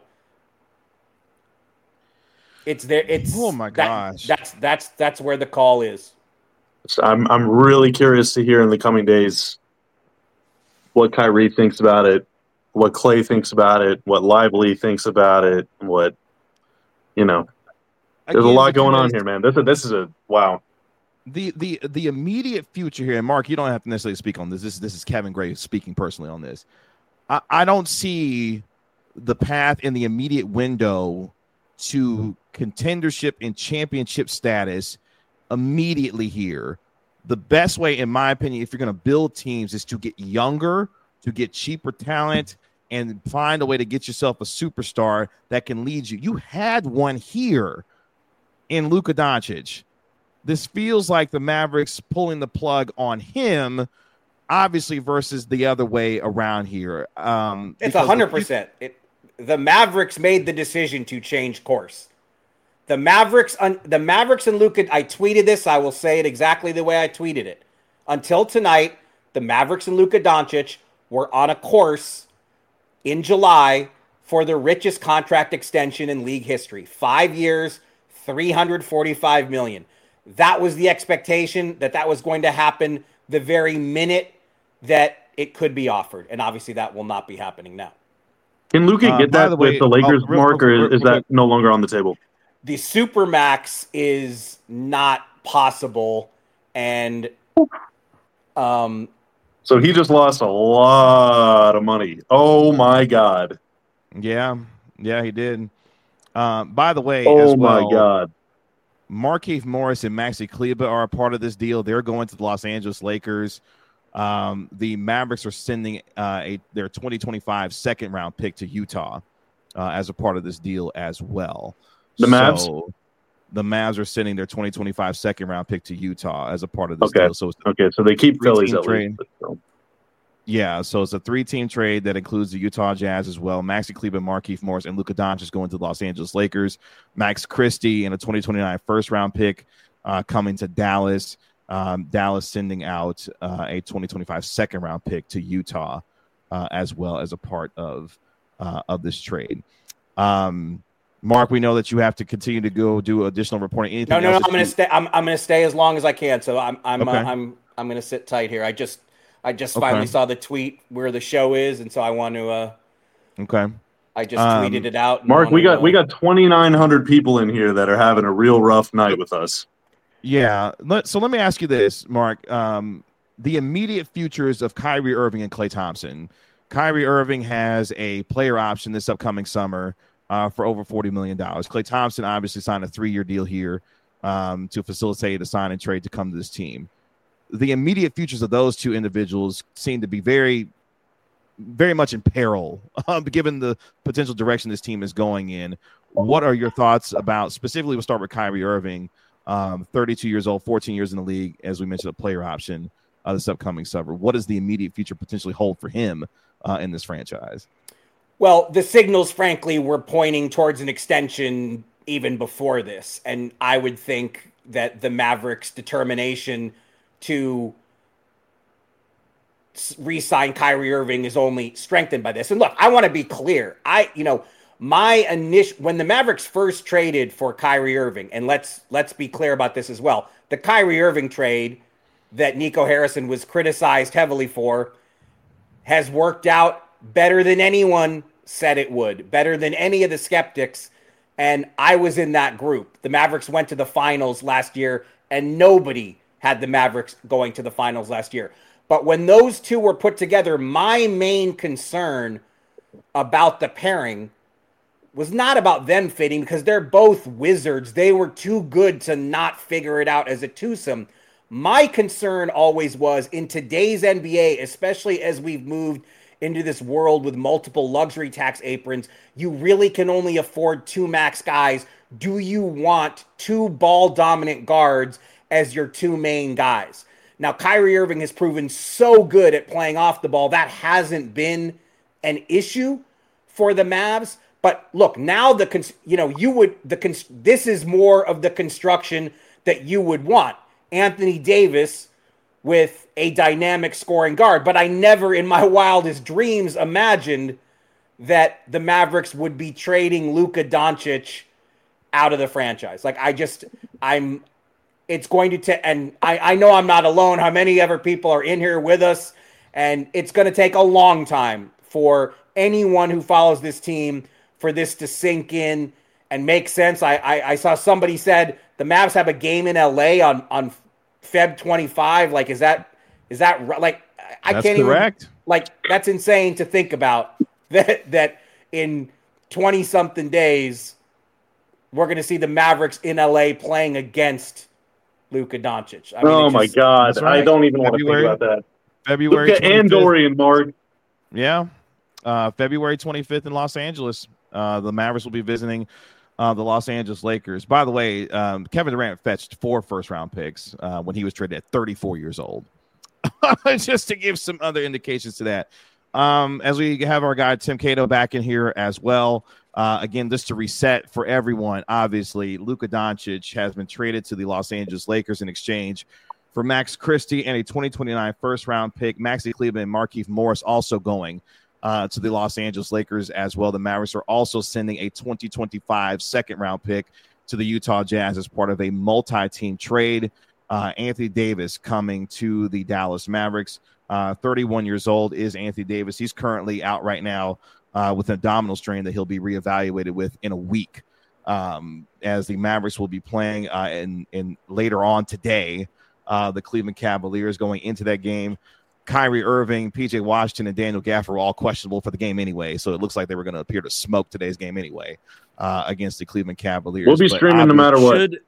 it's there. It's Oh my that- gosh. that's that's that's where the call is. So I'm I'm really curious to hear in the coming days what Kyrie thinks about it, what Clay thinks about it, what Lively thinks about it, what you know. There's Again, a lot but you going know, on here, man. This is this is a wow. the the the immediate future here, and Mark, you don't have to necessarily speak on this. This this is Kevin Gray speaking personally on this. I, I don't see the path in the immediate window to contendership and championship status immediately here. The best way, in my opinion, if you're going to build teams, is to get younger, to get cheaper talent, and find a way to get yourself a superstar that can lead you. You had one here in Luka Doncic. This feels like the Mavericks pulling the plug on him, obviously, versus the other way around here. Um, It's because a hundred if you- percent. It the Mavericks made the decision to change course. The Mavericks, the Mavericks and Luka. I tweeted this. I will say it exactly the way I tweeted it. Until tonight, the Mavericks and Luka Doncic were on a course in July for the richest contract extension in league history. Five years, three hundred forty-five million dollars. That was the expectation, that that was going to happen the very minute that it could be offered. And obviously that will not be happening now. Can Luka Uh, get by that the with way- the Lakers, oh, real- Mark, or real- is real- that no longer on the table? The Supermax is not possible. And um, So he just lost a lot of money. Oh my God. Yeah, yeah, he did. Um, by the way, Oh as well, my God. Markieff Morris and Maxi Kleber are a part of this deal. They're going to the Los Angeles Lakers. Um, the Mavericks are sending uh, a their twenty twenty-five second round pick to Utah uh, as a part of this deal as well. The Mavs? So the Mavs are sending their twenty twenty-five second round pick to Utah as a part of this Okay. deal. So it's Okay, so they keep Three-team Phillies at trade. least. but still. Yeah, so it's a three-team trade that includes the Utah Jazz as well. Maxi Kleber, Markieff Morris, and Luka Doncic going to the Los Angeles Lakers. Max Christie and a twenty twenty-nine first-round pick uh, coming to Dallas. Um, Dallas sending out uh, a twenty twenty-five second-round pick to Utah uh, as well as a part of uh, of this trade. Um, Mark, we know that you have to continue to go do additional reporting. Anything no, no, no. else I'm going to stay. I'm, I'm going to stay as long as I can. So I'm, I'm, Okay. uh, I'm, I'm going to sit tight here. I just, I just Okay. finally saw the tweet where the show is, and so I want to. Uh, Okay. I just Um, tweeted it out. and Mark, wanna we got know. we got twenty-nine hundred people in here that are having a real rough night with us. Yeah. Let, so let me ask you this, Mark. Um, the immediate futures of Kyrie Irving and Klay Thompson. Kyrie Irving has a player option this upcoming summer uh, for over forty million dollars. Klay Thompson obviously signed a three-year deal here um, to facilitate a sign and trade to come to this team. The immediate futures of those two individuals seem to be very, very much in peril, uh, given the potential direction this team is going in. What are your thoughts about, specifically we'll start with Kyrie Irving, um, thirty-two years old, fourteen years in the league, as we mentioned, a player option uh, this upcoming summer. What does the immediate future potentially hold for him uh, in this franchise? Well, the signals, frankly, were pointing towards an extension even before this. And I would think that the Mavericks' determination to re-sign Kyrie Irving is only strengthened by this. And look, I want to be clear. I, you know, my initial, when the Mavericks first traded for Kyrie Irving, and let's, let's be clear about this as well. The Kyrie Irving trade that Nico Harrison was criticized heavily for has worked out better than anyone said it would, better than any of the skeptics. And I was in that group. The Mavericks went to the finals last year, and nobody had the Mavericks going to the finals last year. But when those two were put together, my main concern about the pairing was not about them fitting, because they're both wizards. They were too good to not figure it out as a twosome. My concern always was, in today's N B A, especially as we've moved into this world with multiple luxury tax aprons, you really can only afford two max guys. Do you want two ball-dominant guards as your two main guys? Now, Kyrie Irving has proven so good at playing off the ball. That hasn't been an issue for the Mavs. But look, now the cons- you know you would the cons- this is more of the construction that you would want. Anthony Davis with a dynamic scoring guard. But I never in my wildest dreams imagined that the Mavericks would be trading Luka Doncic out of the franchise. Like, I just, I'm, it's going to take, and I, I know I'm not alone. How many ever people are in here with us? And it's going to take a long time for anyone who follows this team for this to sink in and make sense. I, I, I saw somebody said the Mavs have a game in L A on, on February twenty-fifth. Like, is that, is that right? Like, I That's can't correct. even, like, that's insane to think about that, that in twenty something days, we're going to see the Mavericks in L A playing against Luka Doncic. I mean, Oh it my just- God! That's right. I don't even want to think February. about that. February Luka and twenty-fifth. Dorian, Mark. Yeah. Uh, February twenty-fifth in Los Angeles. Uh, the Mavericks will be visiting uh, the Los Angeles Lakers. By the way, um, Kevin Durant fetched four first-round picks uh, when he was traded at thirty-four years old. Just to give some other indications to that. Um, as we have our guy Tim Cato back in here as well. Uh, again, just to reset for everyone, obviously, Luka Doncic has been traded to the Los Angeles Lakers in exchange for Max Christie and a twenty twenty-nine first-round pick. Maxi Kleber and Markieff Morris also going uh, to the Los Angeles Lakers as well. The Mavericks are also sending a twenty twenty-five second-round pick to the Utah Jazz as part of a multi-team trade. Uh, Anthony Davis coming to the Dallas Mavericks. Uh, thirty-one years old is Anthony Davis. He's currently out right now uh, with an abdominal strain that he'll be reevaluated with in a week, um, as the Mavericks will be playing uh, in, in later on today. Uh, the Cleveland Cavaliers going into that game. Kyrie Irving, P J Washington, and Daniel Gafford were all questionable for the game anyway, so it looks like they were going to appear to smoke today's game anyway uh, against the Cleveland Cavaliers. We'll be But streaming no matter what. Should,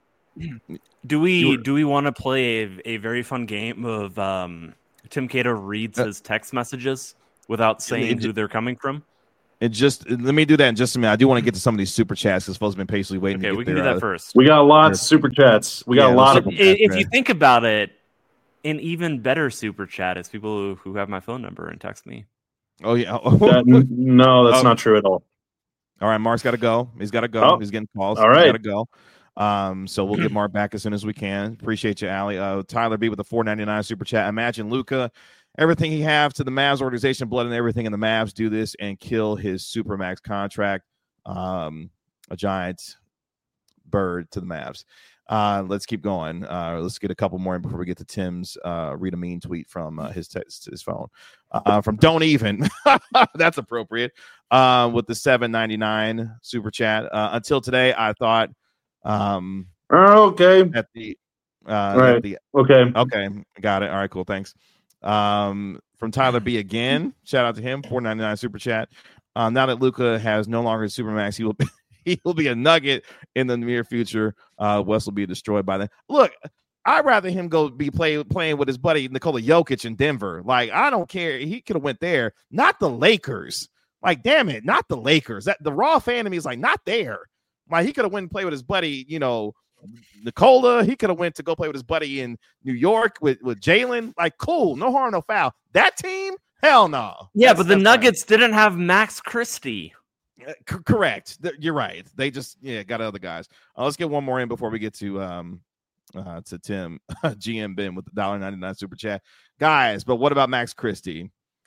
do we You were- do we want to play a, a very fun game of um, Tim Cato reads Uh, his text messages without saying it- who they're coming from? It just let me do that in just a minute. I do want to get to some of these super chats because folks have been patiently waiting. Okay, to get we can their, do that uh, first. We got lots of super chats. We got Yeah, a lot those of super- them. I- If you think about it, an even better super chat is people who, who have my phone number and text me. Oh yeah. That, no, that's Oh. not true at all. All right, Mark's got to go. He's got to go. Oh. He's getting calls. All He's right. got to go. Um, so we'll get Mark back as soon as we can. Appreciate you, Allie. Uh, Tyler B with the four ninety-nine super chat. Imagine Luka, everything he have to the Mavs organization, blood and everything in the Mavs, do this and kill his Supermax contract. Um, a giant bird to the Mavs. Uh, let's keep going. Uh, let's get a couple more in before we get to Tim's uh, read a mean tweet from uh, his text, his phone. Uh, from Don't Even. That's appropriate. Uh, with the seven ninety-nine super chat. Uh, until today, I thought um, Oh, okay. at the uh, Right. at the Okay. okay, got it. All right, cool. Thanks. Um, from Tyler B again. Shout out to him. four ninety-nine super chat. Uh, now that Luka has no longer Supermax, he will be, he will be a nugget in the near future. Uh, West will be destroyed by then. Look, I'd rather him go be play, playing with his buddy Nikola Jokic in Denver. Like, I don't care. He could have went there, not the Lakers. Like, damn it, not the Lakers. That the raw fan of me is like, not there. Like, he could have went and played with his buddy, you know, Nikola. He could have went to go play with his buddy in New York with, with Jalen. Like, cool, no harm, no foul. That team, hell no. Yeah, That's- but the that's Nuggets fine. Didn't have Max Christie. Uh, c- correct. Th- You're right. They just yeah got other guys. Uh, let's get one more in before we get to um uh to Tim G M Ben with the one ninety-nine super chat, guys. But what about Max Christie?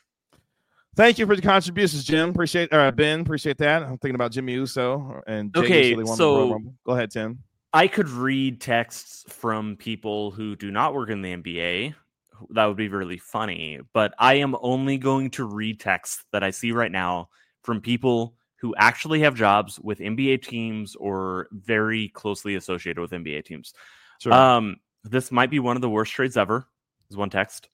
Thank you for the contributions, Jim. Appreciate uh Ben. Appreciate that. I'm thinking about Jimmy Uso and Jay Okay, Uso, they won the so- Royal Rumble. Go ahead, Tim. I could read texts from people who do not work in the N B A. That would be really funny. But I am only going to read texts that I see right now from people who actually have jobs with N B A teams or very closely associated with N B A teams. Sure. Um, this might be one of the worst trades ever, is one text.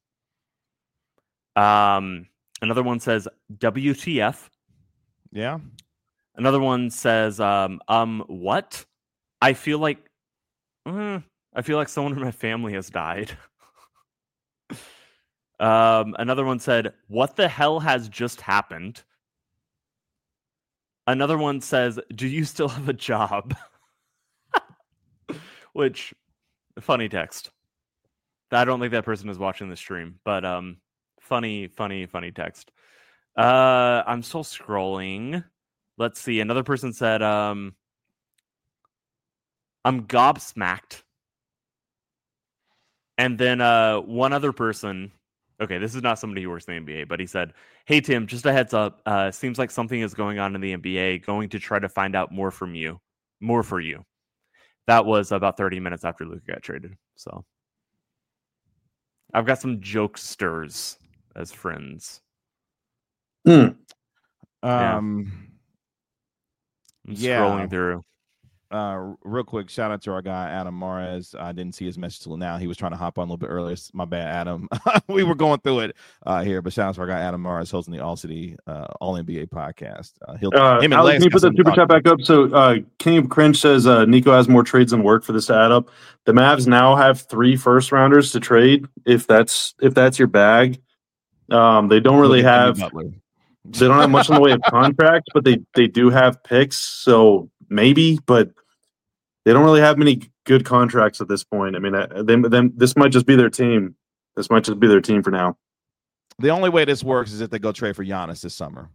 Um, another one says W T F. Yeah. Another one says, um, um, what? I feel like, mm, I feel like someone in my family has died. um, another one said, what the hell has just happened? Another one says, do you still have a job? Which, funny text. I don't think that person is watching the stream, but um, funny, funny, funny text. Uh, I'm still scrolling. Let's see. Another person said, um, I'm gobsmacked. And then uh, one other person, okay, this is not somebody who works in the N B A, but he said, hey, Tim, just a heads up. Uh, seems like something is going on in the N B A. Going to try to find out more from you. More for you. That was about thirty minutes after Luka got traded. So I've got some jokesters as friends. Hmm. Yeah. Um. I'm Yeah. scrolling through. Uh, real quick, shout out to our guy Adam Mares. I didn't see his message till now. He was trying to hop on a little bit earlier. My bad, Adam. We were going through it uh, here, but shout out to our guy Adam Mares, hosting the All City uh, All N B A podcast. Uh, he'll Uh, him and Alex, Lex can you got put the some super talk- chat back up? So, uh, King of Cringe says uh, Nico has more trades than work for this to add up. The Mavs now have three first rounders to trade. If that's if that's your bag, um, they don't really Look at Jimmy have Butler. they don't have much in the way of contracts, but they they do have picks. So maybe, but they don't really have many good contracts at this point. I mean, uh, they, them this might just be their team. This might just be their team for now. The only way this works is if they go trade for Giannis this summer.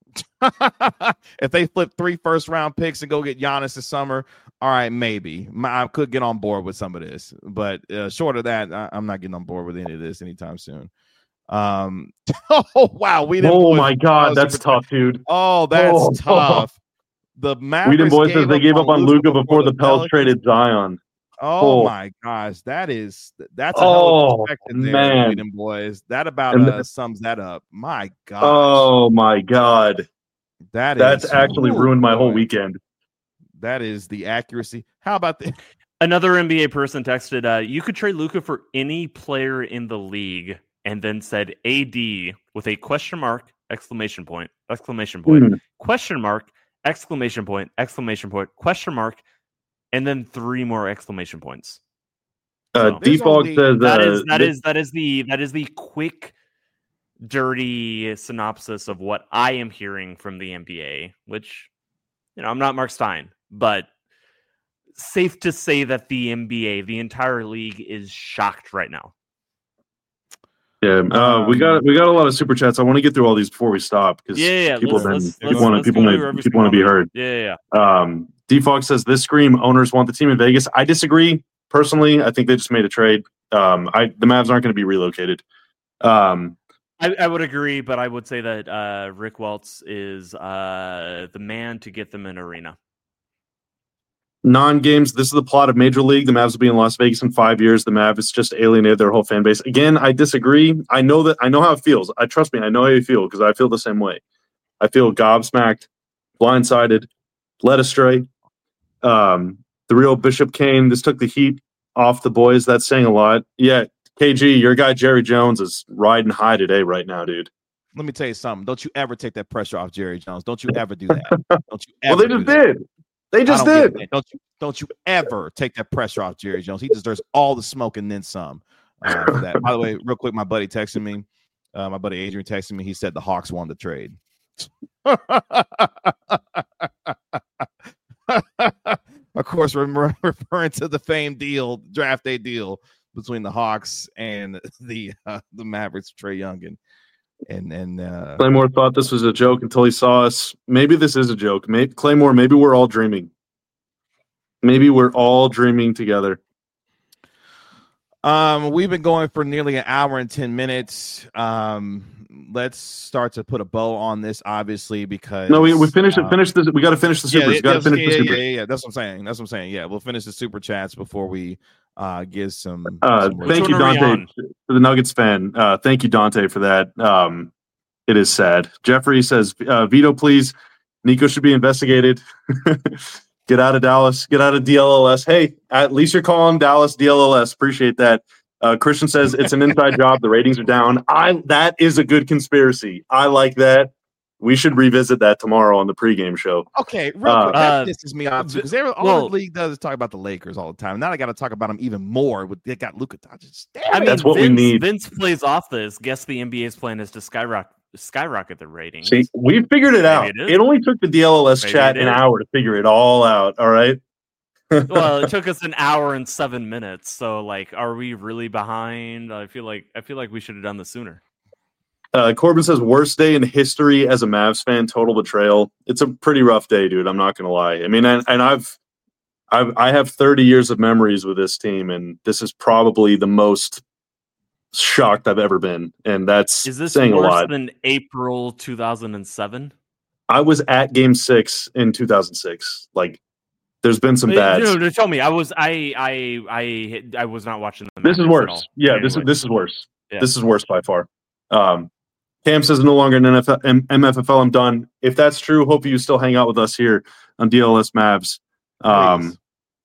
If they flip three first round picks and go get Giannis this summer, all right, maybe I could get on board with some of this. But uh, short of that, I, I'm not getting on board with any of this anytime soon. Um, oh wow, we didn't. Oh my God, that's tough, dude. Oh, that's Oh. tough. The Mavericks Whedon Boy says they gave up on Luka before the Pels Pelicans. traded Zion. Oh, Oh. my gosh, that is that's a hell of Oh, perspective there, man. Whedon Boys. That about And uh, sums that up. My gosh, Oh my God, that that's is actually ooh, ruined my whole boy. weekend. That is the accuracy. How about the Another N B A person texted, uh, you could trade Luka for any player in the league, and then said A D with a question mark, exclamation point, exclamation point, Hmm. question mark, exclamation point, exclamation point, question mark, and then three more exclamation points. Uh, So- Default There's says only- That uh, is that th- is that is the that is the quick, dirty synopsis of what I am hearing from the N B A. Which, you know, I'm not Mark Stein, but safe to say that the N B A, the entire league, is shocked right now. Yeah, uh, Um, we got we got a lot of super chats. I want to get through all these before we stop because Yeah, yeah. people Let's, then let's, people let's, want to let's people go may, to every people want to be single one. heard. Yeah, yeah, yeah. Um, D Fox says this scream owners want the team in Vegas. I disagree personally. I think they just made a trade. Um, I the Mavs aren't going to be relocated. Um, I, I would agree, but I would say that uh, Rick Welts is uh, the man to get them an arena. Non-games. This is the plot of Major League. The Mavs will be in Las Vegas in five years. The Mavs just alienated their whole fan base. Again, I disagree. I know that. I know how it feels. I trust me. I know how you feel because I feel the same way. I feel gobsmacked, blindsided, led astray. Um, the real Bishop Kane. This took the heat off the boys. That's saying a lot. Yeah, K G, your guy Jerry Jones is riding high today, right now, dude. Let me tell you something. Don't you ever take that pressure off Jerry Jones. Don't you ever do that. Don't you ever well, they do just that. did. They just I don't did. get it, man. Don't you don't you ever take that pressure off Jerry Jones. He deserves all the smoke and then some uh, for that. By the way, real quick, my buddy texted me. Uh, my buddy Adrian texted me. He said the Hawks won the trade. Of course, we're referring to the famed deal, draft day deal between the Hawks and the uh, the Mavericks, Trae Young and and and uh, Claymore thought this was a joke until he saw us. Maybe this is a joke. Maybe Claymore. Maybe we're all dreaming. Maybe we're all dreaming together. Um, we've been going for nearly an hour and ten minutes. Um, let's start to put a bow on this, obviously, because no, we we finished uh, it. Finish this. We got to finish the supers. Yeah, we got to finish yeah, the supers. Yeah, yeah, yeah. That's what I'm saying. That's what I'm saying. Yeah, we'll finish the super chats before we uh give some. Uh, some thank you, Dante, for the Nuggets fan. Uh, thank you, Dante, for that. Um, it is sad. Jeffrey says, uh, "Veto, please. Nico should be investigated." Get out of Dallas. Get out of D L L S. Hey, at least you're calling Dallas D L L S. Appreciate that. Uh, Christian says it's an inside job. The ratings are down. I that is a good conspiracy. I like that. We should revisit that tomorrow on the pregame show. Okay, real Uh, quick, that uh, pisses me off too because all well, the league does is talk about the Lakers all the time. Now I got to talk about them even more. With they got Luka Doncic. Damn I it. mean, That's what Vince, we need. Vince plays off this. Guess the N B A's plan is to skyrocket skyrocket the ratings. See, we figured it Maybe out. it It, is. only took the D L L S Maybe chat it an is. hour to figure it all out. All right. Well, it took us an hour and seven minutes. So, like, are we really behind? I feel like I feel like we should have done this sooner. Uh, Corbin says worst day in history as a Mavs fan. Total betrayal. It's a pretty rough day, dude. I'm not gonna lie. I mean, and, and I've, I've I have thirty years of memories with this team, and this is probably the most shocked I've ever been, and that's Is this saying a worse lot. than April two thousand seven? I was at Game Six in two thousand six. Like, there's been some bad. No, no, tell me. I was I I I I was not watching the. This is Mavericks at all. worse. Yeah, Anyway. this is this is worse. Yeah. This is worse by far. Um, Cam says no longer an N F L, M- MFFL. I'm done. If that's true, hope you still hang out with us here on D L S Mavs. Um,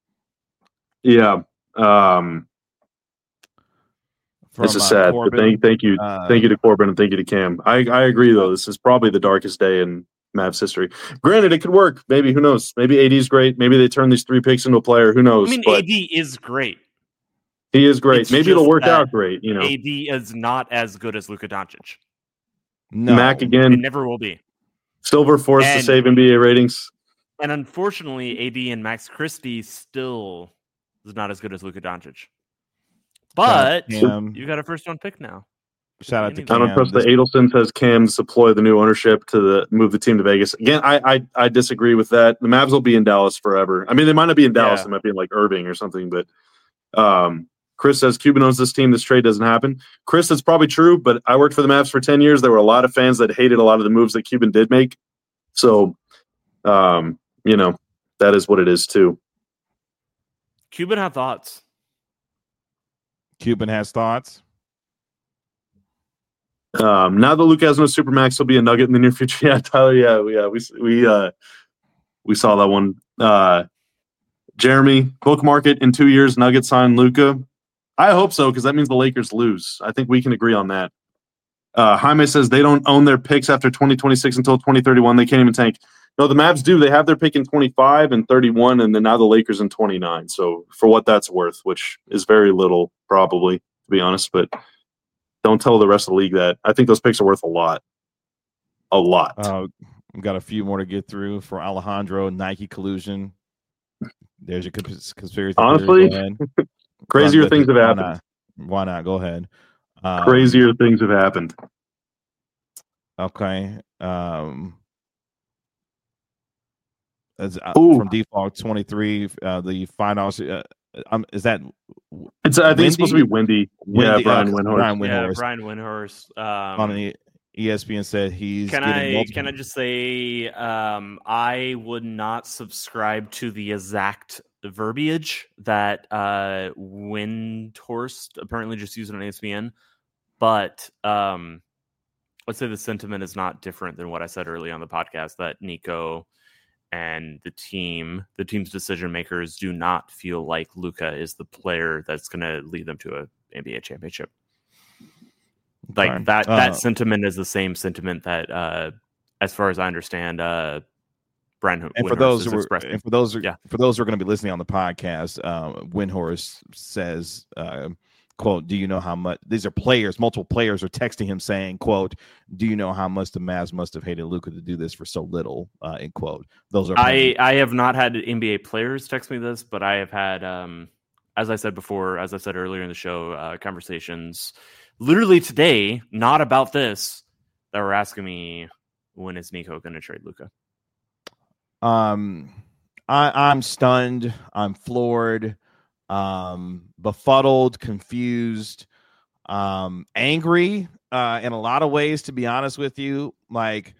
yeah. Um, From, this is uh, sad. Corbin, but thank, thank you, uh, thank you to Corbin and thank you to Cam. I, I agree though. This is probably the darkest day in Mavs history. Granted, it could work. Maybe who knows? Maybe A D's great. Maybe they turn these three picks into a player. Who knows? I mean, but A D is great. he is great. It's Maybe it'll just work that out great. You know, A D is not as good as Luka Doncic. no. Mac It again. never will be. Silver forced to And- save N B A ratings. And unfortunately, A D and Max Christie still is not as good as Luka Doncic. But Cam. you got a first round pick now. Shout out to I I Cam. don't trust This- the Adelson says Cam to deploy the new ownership to the move the team to Vegas. Again, I, I I disagree with that. The Mavs will be in Dallas forever. I mean, they might not be in Dallas. Yeah. They might be in like Irving or something. But um, Chris says Cuban owns this team. This trade doesn't happen. Chris, that's probably true. But I worked for the Mavs for ten years. There were a lot of fans that hated a lot of the moves that Cuban did make. So, um, you know, that is what it is too. Cuban had thoughts. Cuban has thoughts. Um, now that Luke has no supermax, he'll be a Nugget in the near future. Yeah, Tyler. Yeah, we, yeah, we we uh, we saw that one. Uh, Jeremy, bookmark it in two years. Nuggets sign Luka. I hope so because that means the Lakers lose. I think we can agree on that. Uh, Jaime says they don't own their picks after twenty twenty-six until twenty thirty-one. They can't even tank. No, the Mavs do. They have their pick in twenty-five and thirty-one, and then now the Lakers in twenty-nine. So for what that's worth, which is very little, probably to be honest, but. Don't tell the rest of the league that. I think those picks are worth a lot. A lot. Uh, we've got a few more to get through for Alejandro. Nike collusion. There's your cons- conspiracy. Honestly, theory. Go ahead. Crazier Run with things it. have Why happened. not? Why not? Go ahead. Um, Crazier things have happened. Okay. Um, as, uh, Ooh. from default twenty-three, uh, the finals. Uh, um, is that It's I think Windy? it's supposed to be Windy. Windy, yeah, Brian uh, Windhorst. Brian Yeah, Windhorst Brian Windhorst. on Um, the E S P N said he's can getting I multiple. can I just say um, I would not subscribe to the exact verbiage that uh, Windhorst apparently just used on E S P N, but um, let's say the sentiment is not different than what I said earlier on the podcast, that Nico and the team, the team's decision makers, do not feel like Luka is the player that's going to lead them to a N B A championship. Like Okay. that, Uh, that sentiment is the same sentiment that, uh, as far as I understand, uh, Brian And for Windhorst those is who were, expressing. and for those, who- Yeah. for those who are going to be listening on the podcast, uh, Windhorst says, uh, "quote Do you know how much these are players? Multiple players are texting him saying, quote Do you know how much the Mavs must have hated Luka to do this for so little?" Uh, end quote. Those are I, I have not had N B A players text me this, but I have had, um, as I said before, as I said earlier in the show, uh, conversations literally today, not about this, that were asking me, when is Nico going to trade Luka? Um, I, I'm stunned. I'm floored. Um, befuddled, confused, um, angry. Uh, in a lot of ways, to be honest with you, like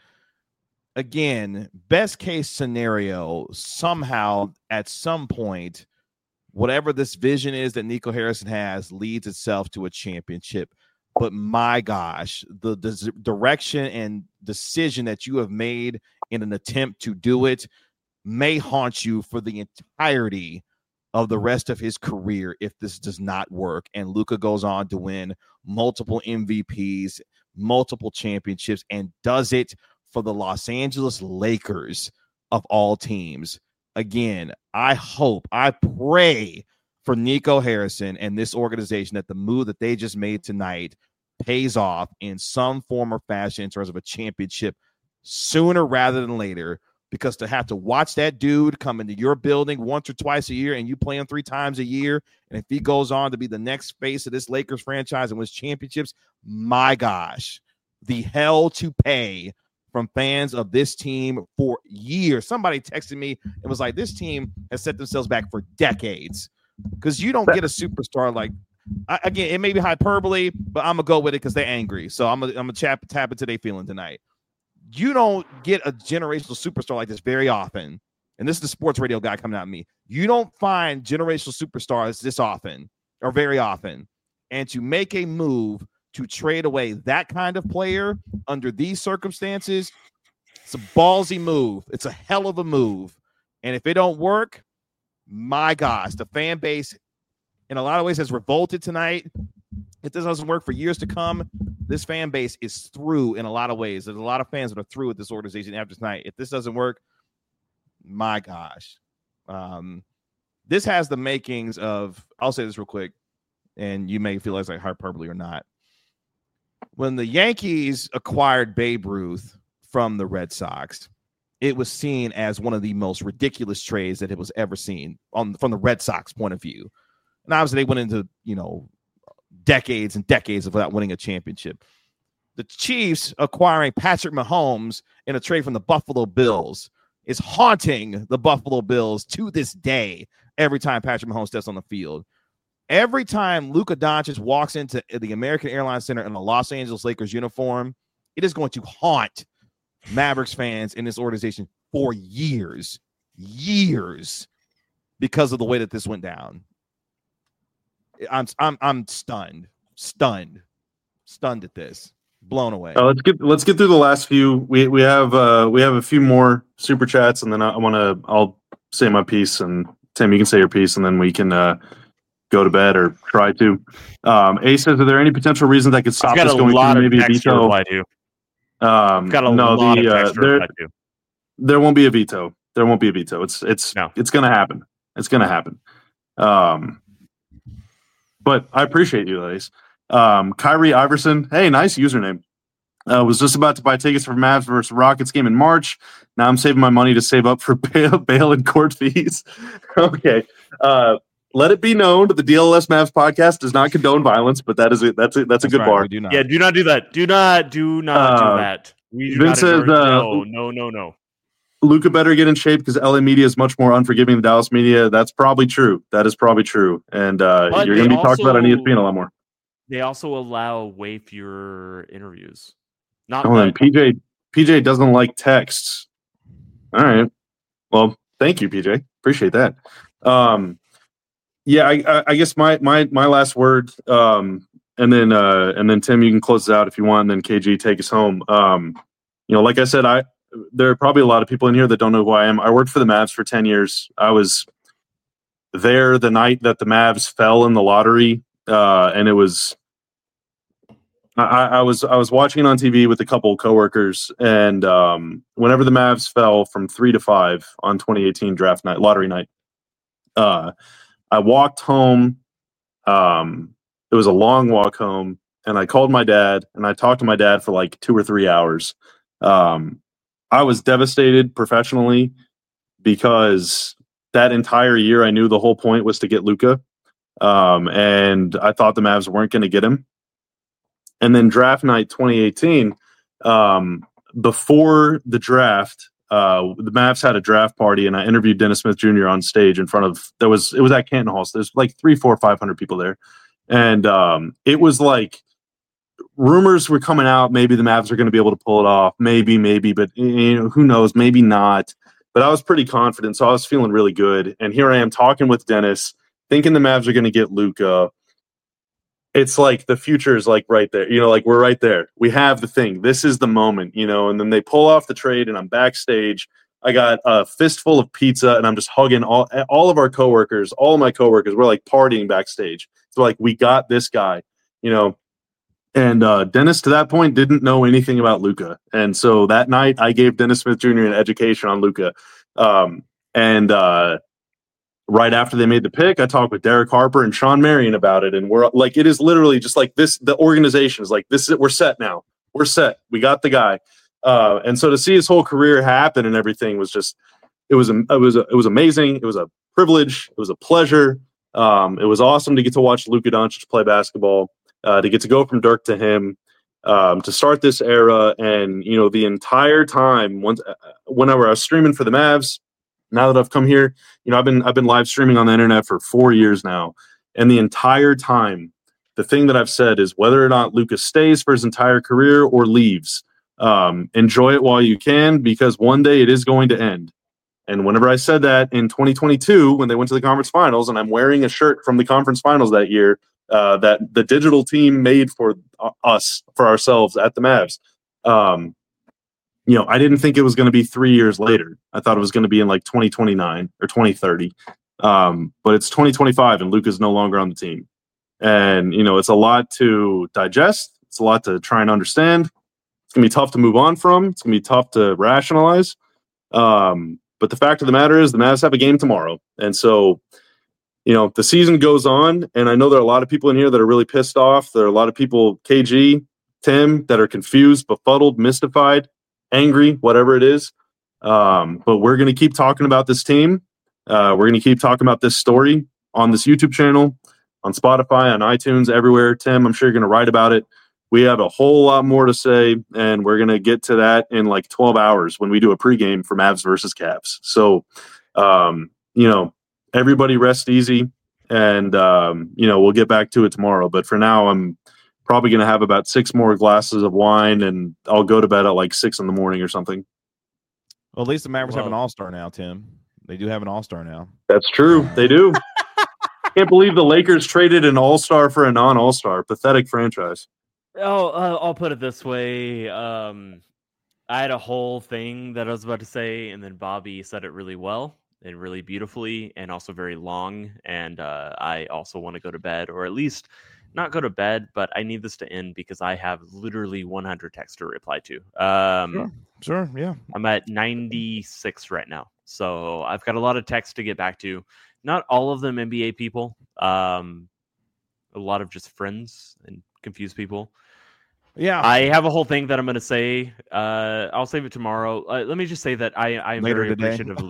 again, best case scenario, somehow at some point, whatever this vision is that Nico Harrison has leads itself to a championship. But my gosh, the, the direction and decision that you have made in an attempt to do it may haunt you for the entirety of the rest of his career if this does not work. And Luka goes on to win multiple M V Ps, multiple championships, and does it for the Los Angeles Lakers of all teams. Again, I hope, I pray for Nico Harrison and this organization that the move that they just made tonight pays off in some form or fashion in terms of a championship sooner rather than later. Because to have to watch that dude come into your building once or twice a year and you play him three times a year, and if he goes on to be the next face of this Lakers franchise and wins championships, my gosh, the hell to pay from fans of this team for years. Somebody texted me and was like, this team has set themselves back for decades because you don't get a superstar like, I, again, it may be hyperbole, but I'm going to go with it because they're angry. So I'm going to tap, tap into their feeling tonight. You don't get a generational superstar like this very often. And this is the sports radio guy coming at me. You don't find generational superstars this often or very often. And to make a move to trade away that kind of player under these circumstances, it's a ballsy move. It's a hell of a move. And if it don't work, my gosh, the fan base in a lot of ways has revolted tonight. If this doesn't work for years to come, this fan base is through in a lot of ways. There's a lot of fans that are through with this organization after tonight. If this doesn't work, my gosh. Um, this has the makings of, I'll say this real quick, and you may feel like it's like hyperbole or not. When the Yankees acquired Babe Ruth from the Red Sox, it was seen as one of the most ridiculous trades that it was ever seen on from the Red Sox point of view. And obviously they went into, you know, decades and decades of without winning a championship. The Chiefs acquiring Patrick Mahomes in a trade from the Buffalo Bills is haunting the Buffalo Bills to this day every time Patrick Mahomes steps on the field. Every time Luka Doncic walks into the American Airlines Center in a Los Angeles Lakers uniform, it is going to haunt Mavericks fans in this organization for years, years, because of the way that this went down. I'm I'm I'm stunned, stunned, stunned at this, blown away. Uh, let's get let's get through the last few. We we have uh, we have a few more super chats, and then I, I want to I'll say my piece, and Tim, you can say your piece, and then we can uh, go to bed or try to. Um, A says, are there any potential reasons that could stop I've got this a going lot through of maybe a text to veto? reply to. Um, I've got a no, lot the, of uh, text to there, reply to. there won't be a veto. There won't be a veto. It's it's No. it's going to happen. It's going to happen. Um, but I appreciate you, ladies. Um, Kyrie Iverson, hey, nice username. Uh, was just about to buy tickets for Mavs versus Rockets game in March. Now I'm saving my money to save up for bail, bail and court fees. Okay. Uh, let it be known that the D L S Mavs podcast does not condone violence, but that is a, that's a, that's a That's good right, bar. we do not. Yeah, do not do that. Do not, do not Uh, do that. We do Vince not says, endorse. uh, no, no, no, no. Luka better get in shape because L A media is much more unforgiving than Dallas media. That's probably true. That is probably true. And uh, But you're they going to be talked about on E S also- P N a lot more. They also allow way fewer interviews. Not Oh, then that P J P J doesn't like texts. All right. Well, thank you, P J. Appreciate that. Um, yeah, I, I, I guess my my my last word, um, and then uh, and then Tim, you can close this out if you want, and then K G take us home. Um, you know, like I said, I there are probably a lot of people in here that don't know who I am. I worked for the Mavs for ten years. I was there the night that the Mavs fell in the lottery, uh, and it was. I, I was I was watching it on T V with a couple of coworkers, and um, whenever the Mavs fell from three to five on twenty eighteen draft night, lottery night, uh, I walked home. Um, it was a long walk home, and I called my dad, and I talked to my dad for like two or three hours. Um, I was devastated professionally because that entire year I knew the whole point was to get Luka, um, and I thought the Mavs weren't going to get him. And then draft night twenty eighteen, um, before the draft, uh, the Mavs had a draft party, and I interviewed Dennis Smith Junior on stage in front of there was it was at Canton Hall. So there's like three, four, five hundred people there, and um, it was like rumors were coming out. Maybe the Mavs are going to be able to pull it off. Maybe, maybe, but you know, who knows? Maybe not. But I was pretty confident, so I was feeling really good. And here I am talking with Dennis, thinking the Mavs are going to get Luka. It's like the future is like right there, you know, like we're right there. We have the thing. This is the moment, you know, and then they pull off the trade and I'm backstage. I got a fistful of pizza and I'm just hugging all, all of our coworkers, all of my coworkers. We're like partying backstage. So like, we got this guy, you know, and uh, Dennis to that point didn't know anything about Luka. And so that night I gave Dennis Smith Junior an education on Luka. Um, and, uh, Right after they made the pick, I talked with Derek Harper and Sean Marion about it. And we're like, it is literally just like this. The organization is like, this is it. We're set now. We're set. We got the guy. Uh, and so to see his whole career happen and everything was just, it was, it was, it was amazing. It was a privilege. It was a pleasure. Um, it was awesome to get to watch Luka Doncic play basketball, uh, to get to go from Dirk to him, um, to start this era. And, you know, the entire time, once, whenever I was streaming for the Mavs, now that I've come here, you know, I've been I've been live streaming on the internet for four years now, and the entire time, the thing that I've said is whether or not Lucas stays for his entire career or leaves, um, enjoy it while you can because one day it is going to end. And whenever I said that in twenty twenty-two, when they went to the conference finals, and I'm wearing a shirt from the conference finals that year uh, that the digital team made for us for ourselves at the Mavs. Um, You know, I didn't think it was going to be three years later. I thought it was going to be in like twenty twenty-nine or twenty thirty. Um, but it's twenty twenty-five and Luka's no longer on the team. And, you know, it's a lot to digest. It's a lot to try and understand. It's going to be tough to move on from. It's going to be tough to rationalize. Um, but the fact of the matter is the Mavs have a game tomorrow. And so, you know, the season goes on. And I know there are a lot of people in here that are really pissed off. There are a lot of people, K G, Tim, that are confused, befuddled, mystified, angry, whatever it is. Um, but we're going to keep talking about this team. Uh, we're going to keep talking about this story on this YouTube channel, on Spotify, on iTunes, everywhere. Tim, I'm sure you're going to write about it. We have a whole lot more to say, and we're going to get to that in like twelve hours when we do a pregame for Mavs versus Cavs. So, um, you know, everybody rest easy, and, um, you know, we'll get back to it tomorrow. But for now, I'm probably going to have about six more glasses of wine, and I'll go to bed at like six in the morning or something. Well, at least the Mavericks Well, have an all-star now, Tim. They do have an all-star now. That's true. They do. Can't believe the Lakers traded an all-star for a non-all-star. Pathetic franchise. Oh, uh, I'll put it this way. Um, I had a whole thing that I was about to say, and then Bobby said it really well and really beautifully and also very long. And uh, I also want to go to bed, or at least not go to bed, but I need this to end because I have literally one hundred texts to reply to. Um, Sure, sure, yeah. I'm at ninety-six right now. So I've got a lot of texts to get back to. Not all of them N B A people. Um, a lot of just friends and confused people. Yeah. I have a whole thing that I'm going to say. Uh, I'll save it tomorrow. Uh, let me just say that I, I am Later very today. appreciative of Luka.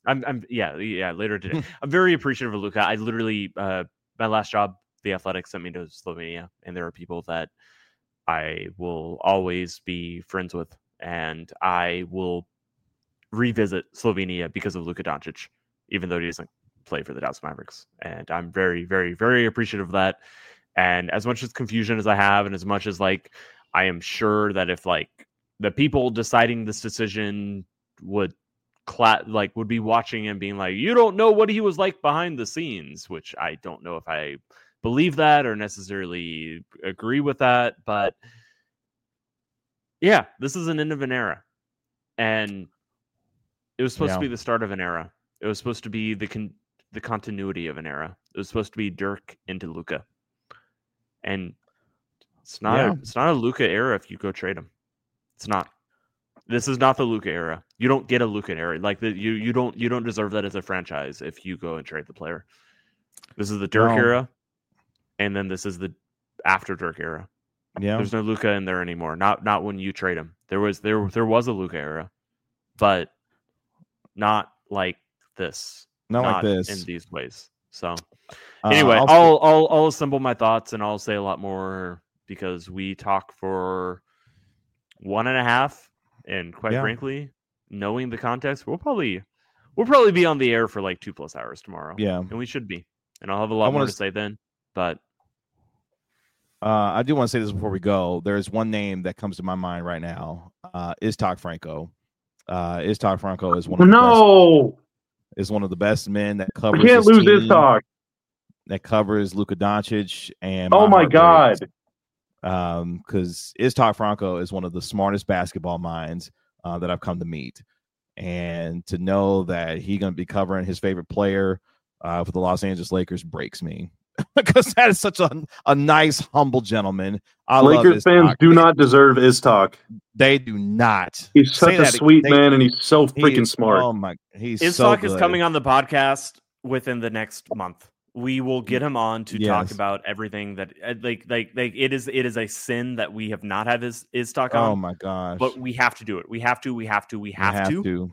I'm, I'm, yeah, yeah. Later today, I'm very appreciative of Luka. I literally, uh, my last job, the Athletic sent me to Slovenia, and there are people that I will always be friends with, and I will revisit Slovenia because of Luka Doncic, even though he doesn't play for the Dallas Mavericks. And I'm very, very, very appreciative of that. And as much as confusion as I have, and as much as like I am sure that if like the people deciding this decision would cla- like would be watching and being like, you don't know what he was like behind the scenes, which I don't know if I believe that or necessarily agree with that, but yeah, this is an end of an era, and it was supposed Yeah. to be the start of an era. It was supposed to be the con- the continuity of an era. It was supposed to be Dirk into Luka, and it's not Yeah. a, it's not a Luka era if you go trade him. It's not. This is not the Luka era. You don't get a Luka era. Like the, you you don't you don't deserve that as a franchise if you go and trade the player. This is the Dirk No. era, and then this is the after Dirk era. Yeah. There's no Luka in there anymore. Not not when you trade him. There was there there was a Luka era, but not like this. Not like this. in these ways. So Uh, anyway, I'll I'll, I'll I'll assemble my thoughts and I'll say a lot more because we talk for one and a half, and quite Yeah. frankly, knowing the context, we'll probably we'll probably be on the air for like two plus hours tomorrow. Yeah. And we should be. And I'll have a lot I more wanna to s- say then. But Uh, I do want to say this before we go. There's one name that comes to my mind right now. Uh, Iztok Franco. Uh, Iztok Franco is one of the best, No, is one of the best men that we covers can't his lose this team, talk. that covers Luka Doncic and Oh my heart god. breaks. Um, because Iztok Franco is one of the smartest basketball minds uh, that I've come to meet, and to know that he's going to be covering his favorite player uh, for the Los Angeles Lakers breaks me. Because that is such a, a nice, humble gentleman. I love Lakers fans Iztok. do not deserve Iztok. They do not. He's Say such a that- sweet they- man, and he's so he freaking is- smart. Oh my, he's his so talk is good. coming on the podcast within the next month. We will get him on to talk Yes. about everything that uh, like like like it is it is a sin that we have not had his is talk Oh on, my gosh. but we have to do it. We have to. We have to. We We have, to. to.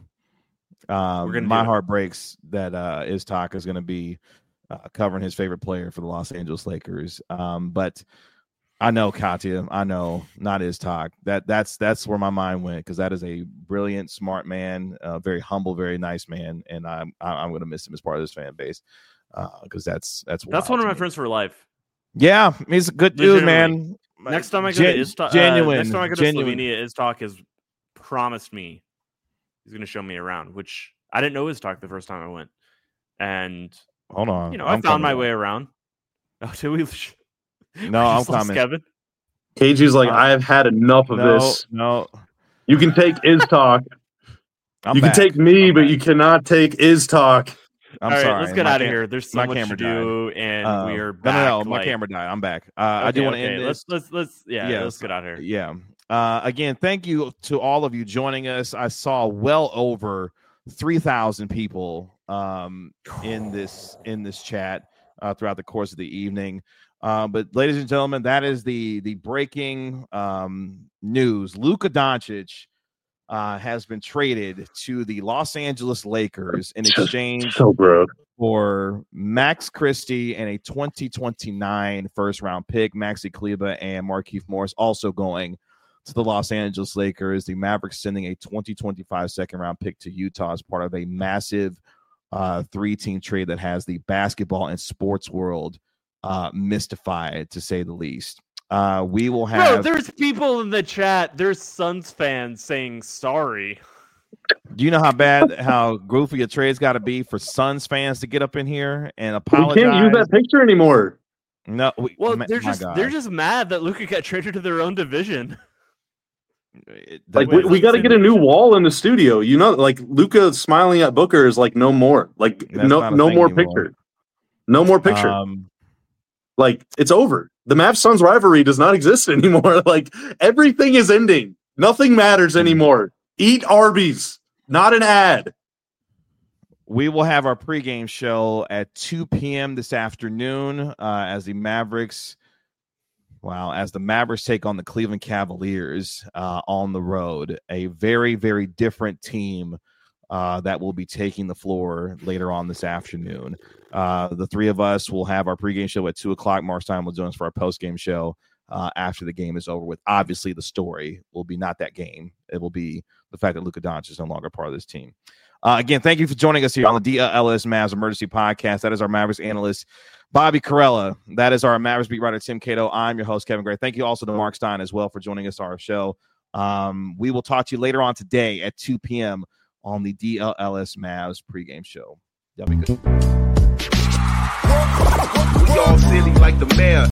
Um, We're gonna my do it. heart breaks that uh, Iztok is going to be uh, covering his favorite player for the Los Angeles Lakers. Um, but I know Katya. I know not Iztok. That that's that's where my mind went, because that is a brilliant, smart man, uh, very humble, very nice man, and I'm I'm going to miss him as part of this fan base because uh, that's that's That's wild one of to my me. friends for life. Yeah, he's a good dude, Legitimately. man. Next time I go Gen- to Iztok, genuine, uh, next time I go to genuine. Slovenia, Iztok has promised me he's going to show me around, which I didn't know Iztok the first time I went, and Hold on, you know I'm I found my coming. way around. Oh, did we? No, I'm Just lost coming. Kevin. K G's like, Uh, I have had enough of No, this. no, You can take Iztok. I'm You back. can take me, I'm but back. you cannot take Iztok. I'm All right, sorry. let's get my out of cam- here. There's so my much to camera do, and Uh, we are no, back. no, no. My like- camera died. I'm back. Uh, I do Okay, want to okay, end Let's this. let's let's yeah. Yes. Let's get out of here. Yeah. Uh, again, thank you to all of you joining us. I saw well over three thousand people um, in this in this chat uh, throughout the course of the evening. Uh, but, ladies and gentlemen, that is the the breaking um, news. Luka Doncic uh, has been traded to the Los Angeles Lakers in exchange So gross. for Max Christie and a twenty twenty-nine first round pick. Maxi Kleba and Markieff Morris also going to the Los Angeles Lakers. The Mavericks sending a twenty twenty-five second round pick to Utah as part of a massive uh, three team trade that has the basketball and sports world uh, mystified, to say the least. Uh, we will Bro, have. there's people in the chat. There's Suns fans saying sorry. Do you know how bad, how goofy a trade's got to be for Suns fans to get up in here and We apologize? can't use that picture anymore. No, we, Well, ma- they're my just God. they're just mad that Luka got traded to their own division. It- Like that- we, we got to get a new wall in the studio. You know, like Luca smiling at Booker is like no more. Like That's no not a no thing more anymore. picture. No more picture. Um, Like it's over. The Mavs Suns rivalry does not exist anymore. Like everything is ending. Nothing matters anymore. Eat Arby's. Not an ad. we will have our pregame show at two p.m. this afternoon uh, as the Mavericks, wow, as the Mavericks take on the Cleveland Cavaliers uh, on the road. A very, very different team uh, that will be taking the floor later on this afternoon. Uh, the three of us will have our pregame show at two o'clock. Mark Stein will join us for our postgame show uh, after the game is over with. Obviously, the story will be not that game. It will be the fact that Luka Doncic is no longer part of this team. Uh, again, thank you for joining us here on the D L S Mavs Emergency Podcast. That is our Mavericks analyst, Bobby Karalla. That is our Mavericks beat writer, Tim Cato. I'm your host, Kevin Gray. Thank you also to Mark Stein as well for joining us on our show. Um, we will talk to you later on today at two p.m. on the D L S Mavs pregame show. Y'all be good. We all silly like the mayor.